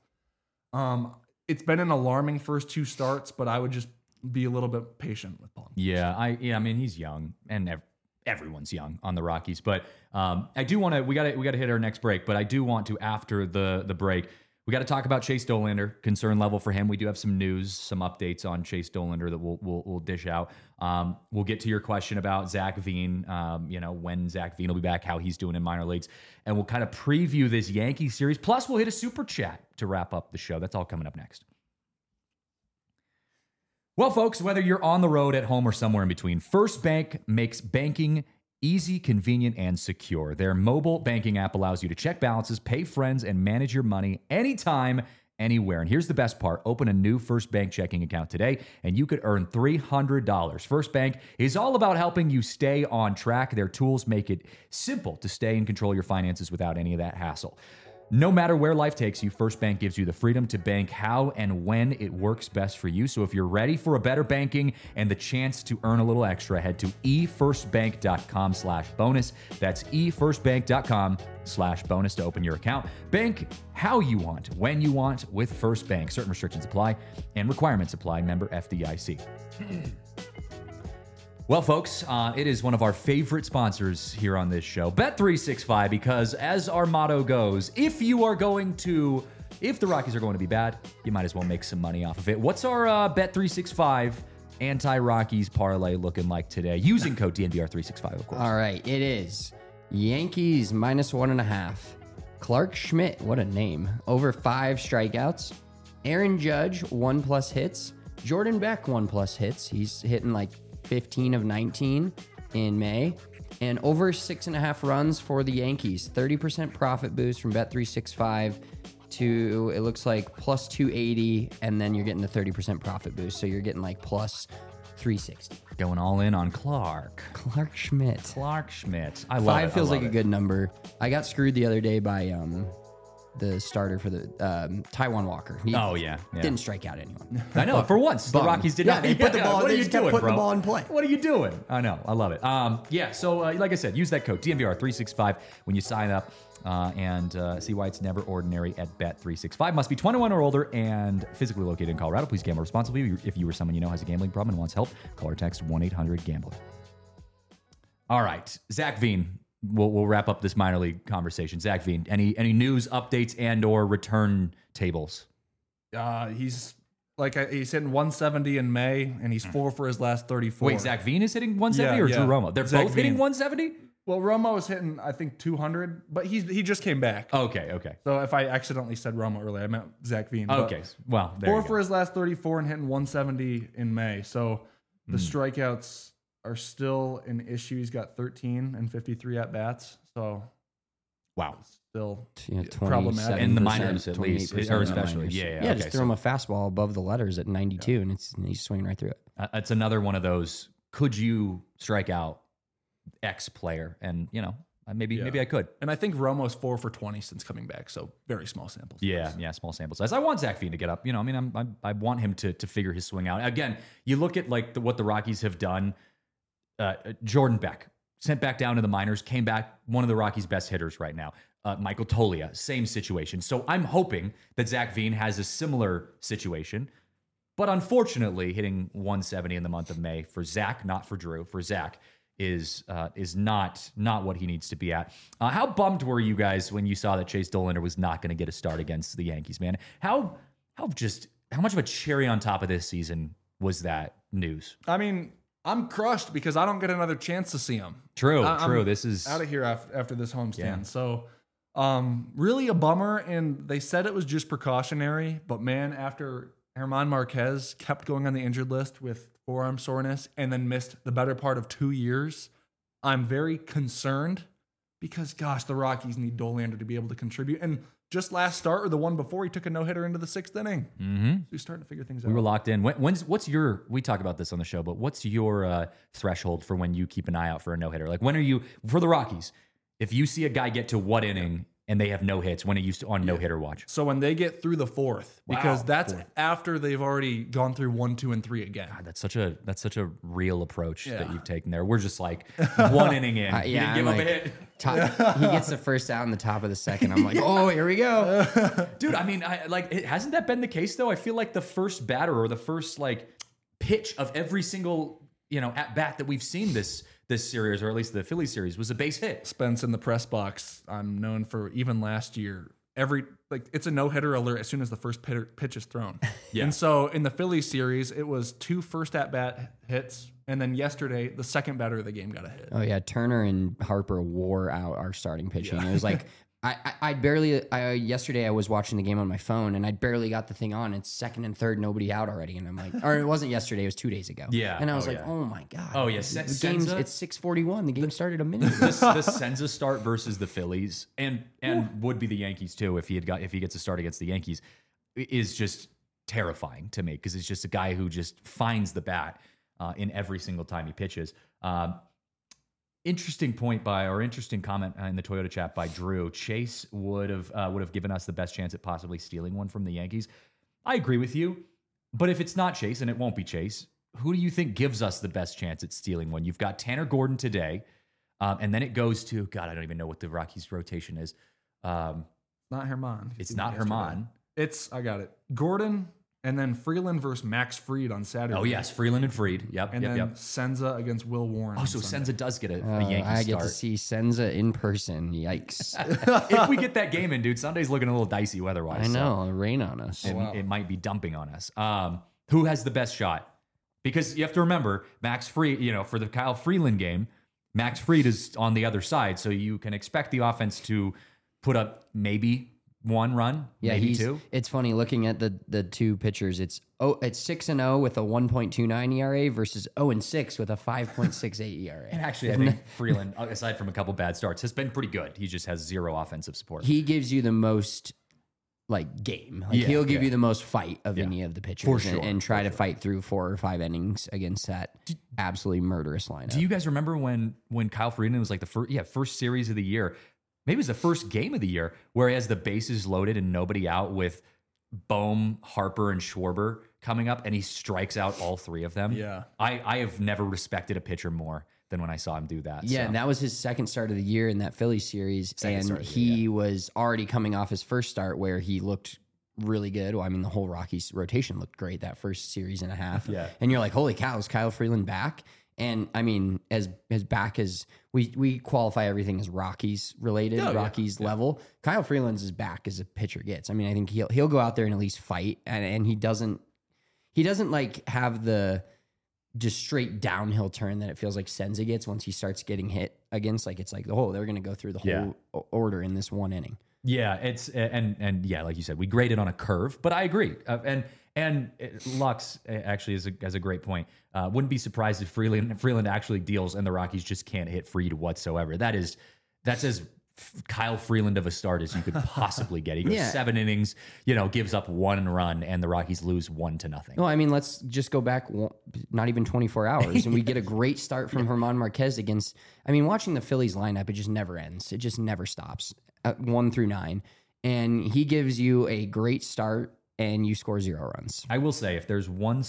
It's been an alarming first 2 starts, but I would just be a little bit patient with Palm. Yeah, I mean, he's young, and everyone's young on the Rockies. But I do want to. We got to hit our next break. But I do want to, after the break, we got to talk about Chase Dollander, concern level for him. We do have some news, some updates on Chase Dollander that we'll dish out. We'll get to your question about Zach Veen, when Zach Veen will be back, how he's doing in minor leagues, and we'll kind of preview this Yankee series. Plus, we'll hit a super chat to wrap up the show. That's all coming up next. Well, folks, whether you're on the road, at home, or somewhere in between, First Bank makes banking easy, convenient, and secure. Their mobile banking app allows you to check balances, pay friends, and manage your money anytime, anywhere. And here's the best part. Open a new First Bank checking account today, and you could earn $300. First Bank is all about helping you stay on track. Their tools make it simple to stay in control of your finances without any of that hassle. No matter where life takes you, First Bank gives you the freedom to bank how and when it works best for you. So if you're ready for a better banking and the chance to earn a little extra, head to efirstbank.com/bonus. That's efirstbank.com/bonus to open your account. Bank how you want, when you want with First Bank. Certain restrictions apply and requirements apply. Member FDIC. Well, folks, it is one of our favorite sponsors here on this show, Bet365, because as our motto goes, if the Rockies are going to be bad, you might as well make some money off of it. What's our Bet365 anti-Rockies parlay looking like today? Using code DNVR365, of course. All right, it is Yankees -1.5. Clark Schmidt, what a name, over 5 strikeouts. Aaron Judge, 1+ hits. Jordan Beck, 1+ hits. He's hitting like 15 of 19 in May, and over 6.5 runs for the Yankees. 30% profit boost from Bet365 to, it looks like, plus 280, and then you're getting the 30% profit boost, so you're getting like plus 360. Going all in on Clark Schmidt. I love 5 it. feels like a good number. I got screwed the other day by the starter for the Taiwan Walker. He didn't strike out anyone. I know. For once, the Rockies did not. They put the ball. What are They you just kept doing, putting bro? the ball in play. What are you doing? I know. I love it. So like I said, use that code DNVR365 when you sign up and see why it's never ordinary at Bet365. Must be 21 or older and physically located in Colorado. Please gamble responsibly. If you or someone you know has a gambling problem and wants help, call or text 1-800-GAMBLER. All right, Zach Veen. We'll wrap up this minor league conversation. Zach Veen, any news, updates, and or return tables? He's hitting 170 in May, and he's 4 for his last 34. Wait, Zach Veen is hitting 170 or Drew Romo? They're Zach both hitting Veen. 170? Well, Romo is hitting, I think, 200, but he just came back. Okay. So if I accidentally said Romo earlier, I meant Zach Veen. Okay, well, there 4 you go. for his last 34 and hitting 170 in May. So the strikeouts are still an issue. He's got 13 and 53 at bats. So Wow. still 27%, problematic. In the minors, at least, 28% or in the especially. minors. Yeah, Just okay, throw him a fastball above the letters at 92, and he's swinging right through it. It's another one of those, could you strike out X player? And, maybe I could. And I think Romo's 4 for 20 since coming back. So very small samples. Yeah, small sample size. I want Zach Veen to get up. I want him to figure his swing out. Again, you look at what the Rockies have done. Jordan Beck, sent back down to the minors, came back, one of the Rockies' best hitters right now. Michael Toglia, same situation. So I'm hoping that Zach Veen has a similar situation. But unfortunately, hitting 170 in the month of May for Zach, not for Drew, for Zach, is not what he needs to be at. How bummed were you guys when you saw that Chase Dollander was not going to get a start against the Yankees, man? How much of a cherry on top of this season was that news? I mean, I'm crushed because I don't get another chance to see him. True. I'm This is out of here after this homestand. Yeah. So really a bummer. And they said it was just precautionary. But man, after German Marquez kept going on the injured list with forearm soreness and then missed the better part of 2 years, I'm very concerned because, gosh, the Rockies need Dollander to be able to contribute. And just last start or the one before, he took a no-hitter into the 6th inning. Mm-hmm. So he's starting to figure things out. We were locked in. We talk about this on the show, but what's your threshold for when you keep an eye out for a no-hitter? Like, when are you, for the Rockies, if you see a guy get to what inning and they have no hits, when are you on no-hitter watch? So when they get through the 4th, because that's fourth. after they've already gone through 1, 2, and 3 again. God, that's such a real approach that you've taken there. We're just like 1 inning in. You didn't give up a hit. He gets the first out in the top of the 2nd. I'm like, oh, here we go. Dude, I mean, hasn't that been the case though? I feel like the first batter or the first pitch of every single, at bat that we've seen this this series, or at least the Phillies series, was a base hit. Spence in the press box, I'm known for, even last year, it's a no-hitter alert as soon as the first pitch is thrown. Yeah. And so in the Phillies series, it was 2 first at-bat hits, and then yesterday, the second batter of the game got a hit. Oh yeah, Turner and Harper wore out our starting pitching. It was like yesterday I was watching the game on my phone and I barely got the thing on. It's second and third, nobody out already, and I'm like, or it wasn't yesterday, it was 2 days ago. Yeah. And I was yeah. oh my god. Oh yeah, the game's it's 6:41. The game started a minute ago. the Senza start versus the Phillies, and would be the Yankees too if he gets a start against the Yankees, is just terrifying to me, because it's just a guy who just finds the bat in every single time he pitches. Interesting comment in the Toyota chat by Drew. Chase would have given us the best chance at possibly stealing one from the Yankees. I agree with you, but if it's not Chase, and it won't be Chase, who do you think gives us the best chance at stealing one? You've got Tanner Gordon today, and then it goes to, God, I don't even know what the Rockies rotation is. Not Herman. It's not Herman. I got it. Gordon, and then Freeland versus Max Fried on Saturday. Oh yes, Freeland and Fried. Yep, and then Senza against Will Warren. Oh, so Senza does get a Yankee I get start. to see Senza in person. Yikes! If we get that game in, dude, Sunday's looking a little dicey weather-wise. I know, rain on us. It might be dumping on us. Who has the best shot? Because you have to remember, Max Fried, for the Kyle Freeland game, Max Fried is on the other side, so you can expect the offense to put up maybe one run, maybe two. It's funny looking at the two pitchers. It's 6-0 with a 1.29 ERA versus 0-6 with a 5.68 ERA. And actually, I think Freeland, aside from a couple bad starts, has been pretty good. He just has zero offensive support. He gives you the most game. He'll give you the most fight of any of the pitchers, For sure, and try to fight through 4 or 5 innings against that absolutely murderous lineup. Do you guys remember when Kyle Freeland was like the first series of the year? Maybe it was the first game of the year where he has the bases loaded and nobody out with Bohm, Harper, and Schwarber coming up, and he strikes out all 3 of them. Yeah. I have never respected a pitcher more than when I saw him do that. Yeah, so. and that was his second start of the year in that Phillies series, and he was already coming off his first start where he looked really good. Well, I mean, the whole Rockies rotation looked great that first series and a half. Yeah. And you're like, holy cow, is Kyle Freeland back? And I mean, as back as we qualify everything as Rockies related, Rockies level. Kyle Freeland's as back as a pitcher gets. I mean, I think he'll go out there and at least fight, and he doesn't like have the just straight downhill turn that it feels like Senza gets once he starts getting hit against. Like it's like, oh, they're going to go through the whole order in this one inning. Yeah, it's and yeah, like you said, we graded on a curve, but I agree. And Lux actually has a great point. Wouldn't be surprised if Freeland actually deals and the Rockies just can't hit Fried whatsoever. That's as Kyle Freeland of a start as you could possibly get. He goes 7 innings, gives up 1 run, and the Rockies lose 1-0. No, I mean, let's just go back not even 24 hours, and we get a great start from Herman Marquez against. I mean, watching the Phillies lineup, it just never ends. It just never stops. 1 through 9, and he gives you a great start, and you score 0 runs. I will say, if there's one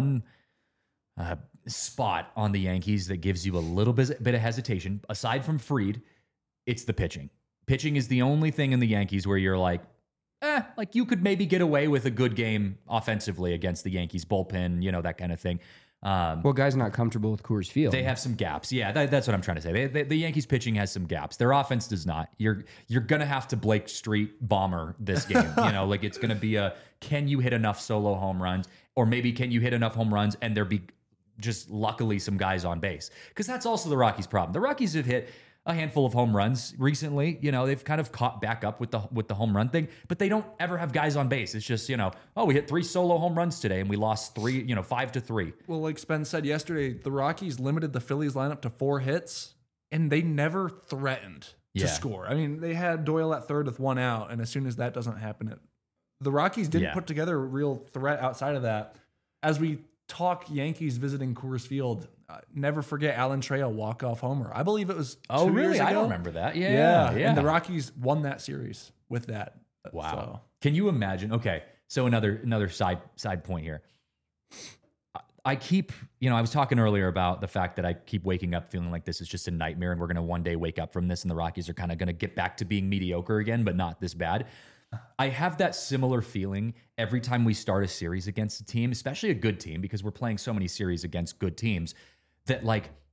spot on the Yankees that gives you a little bit of hesitation, aside from Fried, it's the pitching. Pitching is the only thing in the Yankees where you're like you could maybe get away with a good game offensively against the Yankees bullpen, that kind of thing. Well, guys not comfortable with Coors Field. They have some gaps. Yeah, that's what I'm trying to say. The Yankees pitching has some gaps. Their offense does not. You're going to have to Blake Street bomber this game. It's going to be can you hit enough solo home runs, or maybe can you hit enough home runs and there be just luckily some guys on base? Because that's also the Rockies' problem. The Rockies have hit a handful of home runs recently. They've kind of caught back up with the home run thing, but they don't ever have guys on base. It's just, we hit 3 solo home runs today and we lost 5-3. Well, like Spence said yesterday, the Rockies limited the Phillies lineup to 4 hits, and they never threatened to score. I mean, they had Doyle at third with 1 out, and as soon as that doesn't happen, the Rockies didn't put together a real threat outside of that. As we talk Yankees visiting Coors Field, never forget Alan Trejo walk-off homer. I believe it was 2 years ago. I don't remember that. Yeah. And the Rockies won that series with that. Wow. So. Can you imagine? Okay, so another side point here. I keep, I was talking earlier about the fact that I keep waking up feeling like this is just a nightmare and we're going to one day wake up from this and the Rockies are kind of going to get back to being mediocre again, but not this bad. I have that similar feeling every time we start a series against a team, especially a good team, because we're playing so many series against good teams, that like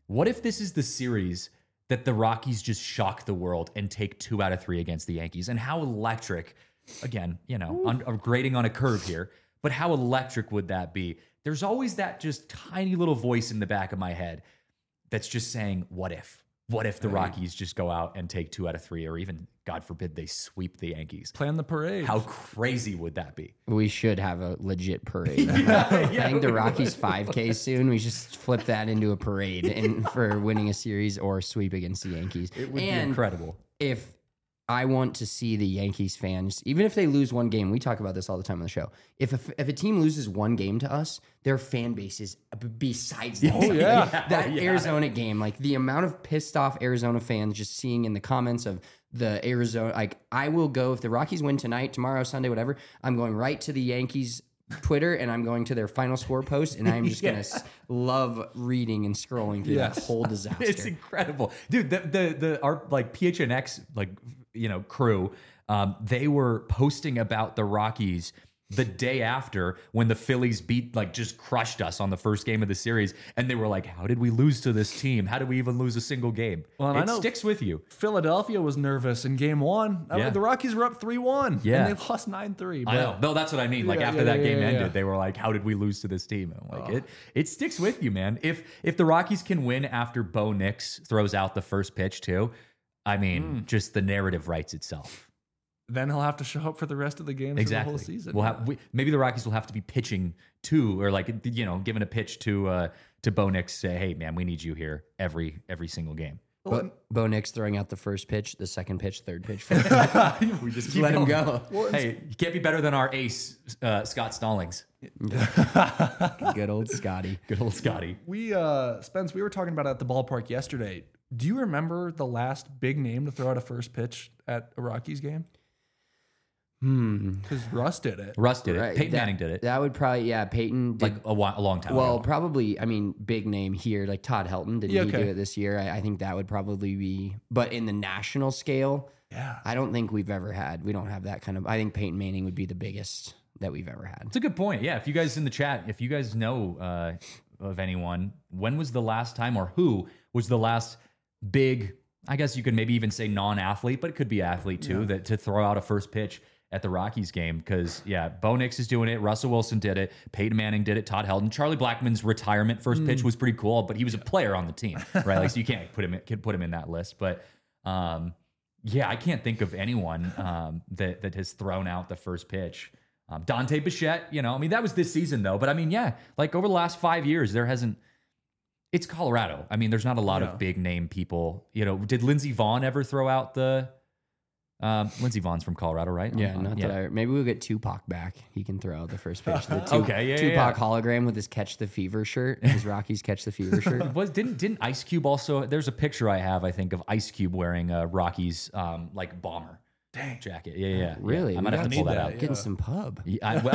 What if this is the series that the Rockies just shock the world and take 2 out of 3 against the Yankees? And how electric, again, I'm grading on a curve here, but how electric would that be? There's always that just tiny little voice in the back of my head that's just saying, what if? What if the Rockies just go out and take 2 out of 3, or even, God forbid, they sweep the Yankees? Plan the parade. How crazy would that be? We should have a legit parade. I think the Rockies 5K soon. We just flip that into a parade and for winning a series or sweep against the Yankees. It would be incredible. If I want to see the Yankees fans, even if they lose one game, we talk about this all the time on the show. If a team loses one game to us, their fan base is besides that. That Arizona game, like the amount of pissed off Arizona fans just seeing in the comments of the Arizona, like I will go if the Rockies win tonight, tomorrow, Sunday, whatever. I'm going right to the Yankees Twitter and I'm going to their final score post and I'm just gonna love reading and scrolling through that whole disaster. It's incredible, dude. Our like PHNX crew, they were posting about the Rockies the day after when the Phillies just crushed us on the first game of the series, and they were like, "How did we lose to this team? How did we even lose a single game?" Well, it sticks with you. Philadelphia was nervous in game 1. The Rockies were up 3-1. Yeah. And they lost 9-3. I know. No, that's what I mean. Like after that game ended, they were like, "How did we lose to this team?" And I'm like, it sticks with you, man. If the Rockies can win after Bo Nix throws out the first pitch too, I mean, just the narrative writes itself. Then he'll have to show up for the rest of the games for the whole season. Maybe the Rockies will have to be pitching to, or giving a pitch to Bo Nix, say, "Hey, man, we need you here every single game." Bo Nix throwing out the first pitch, the second pitch, third pitch. We just keep let him go. Hey, you can't be better than our ace, Scott Stallings. Good old Scotty. Good old Scotty. Spence, we were talking about it at the ballpark yesterday. Do you remember the last big name to throw out a first pitch at a Rockies game? Because Russ did it. Right. Peyton Manning did it. That would probably, Peyton did. Like a long time ago. Well, probably, big name here, like Todd Helton. Did he do it this year? I think that would probably be, but in the national scale, I don't think we don't have that kind of, I think Peyton Manning would be the biggest that we've ever had. It's a good point. Yeah. If you guys in the chat, if you guys know of anyone, when was the last time, or who was the last big, I guess you could maybe even say non-athlete, but it could be athlete too, that to throw out a first pitch at the Rockies game? Because Bo Nix is doing it, Russell Wilson did it, Peyton Manning did it, Todd Helton, Charlie Blackmon's retirement first pitch was pretty cool, but he was a player on the team, right? Like, so you can't put him in that list. But I can't think of anyone that has thrown out the first pitch. Dante Bichette, that was this season though. But like over the last 5 years, there hasn't. It's Colorado. There's not a lot of big name people. Did Lindsey Vaughn ever throw out the? Lindsey Vaughn's from Colorado, right? Yeah, maybe we'll get Tupac back. He can throw out the first pitch. The Tupac hologram with his Catch the Fever shirt, his Rockies Catch the Fever shirt. Didn't Ice Cube also? There's a picture I have, I think, of Ice Cube wearing a Rockies bomber jacket. Yeah. Really? I might have to pull that out. Getting some pub. Love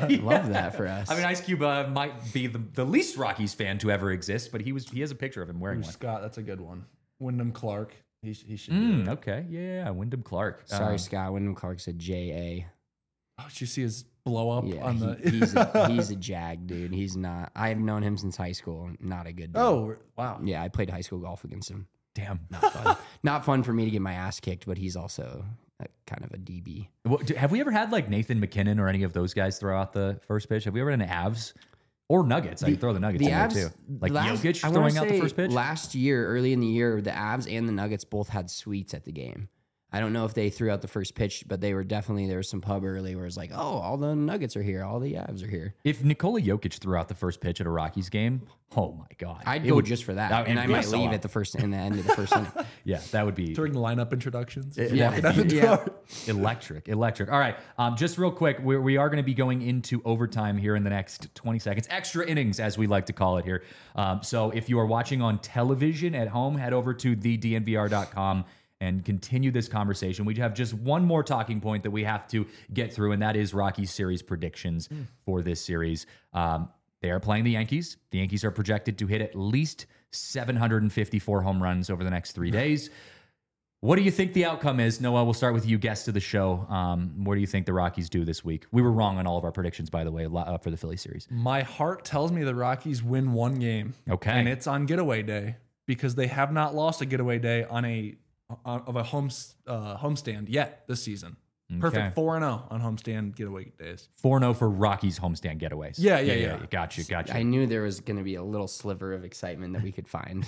that for us. Ice Cube might be the least Rockies fan to ever exist, but he has a picture of him wearing one. Scott, that's a good one. Wyndham Clark. He should do it. Okay. Yeah. Wyndham Clark. Sorry, Scott. Wyndham Clark said J.A. Oh, did you see his blow up on the... he's a jag, dude. He's not... I've known him since high school. Not a good dude. Oh, wow. Yeah, I played high school golf against him. Damn. Not fun. Not fun for me to get my ass kicked, but he's also kind of a DB. Well, have we ever had like Nathan McKinnon or any of those guys throw out the first pitch? Have we ever had an Avs? Or Nuggets. I can throw the Nuggets in there too. Like Jokic throwing out the first pitch? Last year, early in the year, the Avs and the Nuggets both had suites at the game. I don't know if they threw out the first pitch, but they were definitely, there was some pub early where it's like, oh, all the Nuggets are here. All the Avs are here. If Nikola Jokic threw out the first pitch at a Rockies game, oh my God. I'd go just for that. And I might leave at in the end of the first inning. Yeah, that would be. During the lineup introductions. Walking out the door. Electric. All right. Just real quick, we are going to be going into overtime here in the next 20 seconds. Extra innings, as we like to call it here. So if you are watching on television at home, head over to thednvr.com and continue this conversation. We have just one more talking point that we have to get through, and that is Rockies series predictions for this series. They are playing the Yankees. The Yankees are projected to hit at least 754 home runs over the next 3 days. What do you think the outcome is? Noah, we'll start with you, guest of the show. What do you think the Rockies do this week? We were wrong on all of our predictions, by the way, for the Philly series. My heart tells me the Rockies win one game. Okay. And it's on getaway day. because they have not lost a getaway day on a homestand yet this season. Perfect 4-0 on homestand getaway days. 4-0 for Rockies homestand getaways. Yeah. Got you. I knew there was going to be a little sliver of excitement that we could find.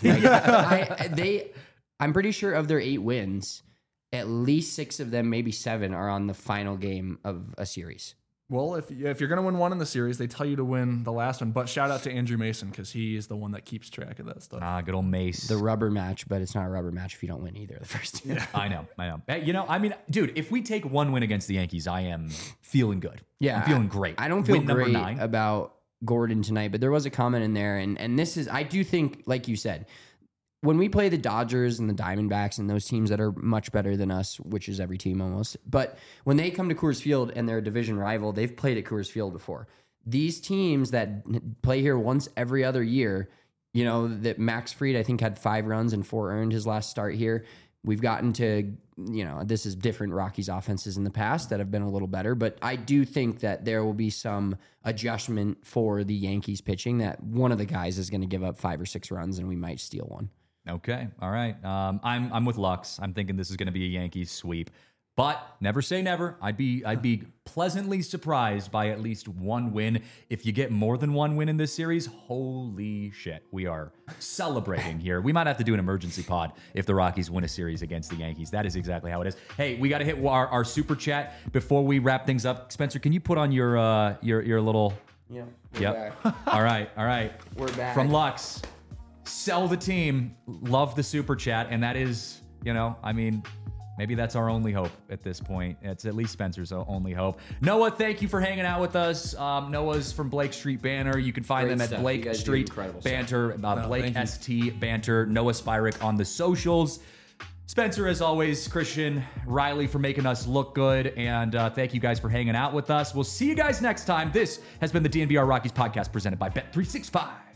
I'm pretty sure of their 8 wins, at least 6 of them, maybe 7, are on the final game of a series. Well, if you're going to win one in the series, they tell you to win the last one. But shout out to Andrew Mason because he is the one that keeps track of that stuff. Good old Mace. The rubber match, but it's not a rubber match if you don't win either of the first 2. Yeah. I know. Hey, dude, if we take 1 win against the Yankees, I am feeling good. Yeah. I'm feeling great. I don't feel great about Gordon tonight, but there was a comment in there. And this is, I do think, like you said, when we play the Dodgers and the Diamondbacks and those teams that are much better than us, which is every team almost, but when they come to Coors Field and they're a division rival, they've played at Coors Field before. These teams that play here once every other year, that Max Fried, I think, had 5 runs and 4 earned his last start here. We've gotten to, this is different Rockies offenses in the past that have been a little better, but I do think that there will be some adjustment for the Yankees pitching, that one of the guys is going to give up 5 or 6 runs and we might steal one. Okay. All right. I'm with Lux. I'm thinking this is going to be a Yankees sweep, but never say never. I'd be pleasantly surprised by at least 1 win. If you get more than 1 win in this series, holy shit, we are celebrating here. We might have to do an emergency pod if the Rockies win a series against the Yankees. That is exactly how it is. Hey, we got to hit our super chat before we wrap things up. Spencer, can you put on your little? Yeah. Yep. All right. We're back from Lux. Sell the team. Love the super chat. And that is, maybe that's our only hope at this point. It's at least Spencer's only hope. Noah, thank you for hanging out with us. Noah's from Blake Street Banter. You can find them at Blake Street Banter, Blake ST Banter, Noah Spyrick on the socials. Spencer, as always, Christian, Riley for making us look good. And thank you guys for hanging out with us. We'll see you guys next time. This has been the DNVR Rockies podcast presented by Bet365.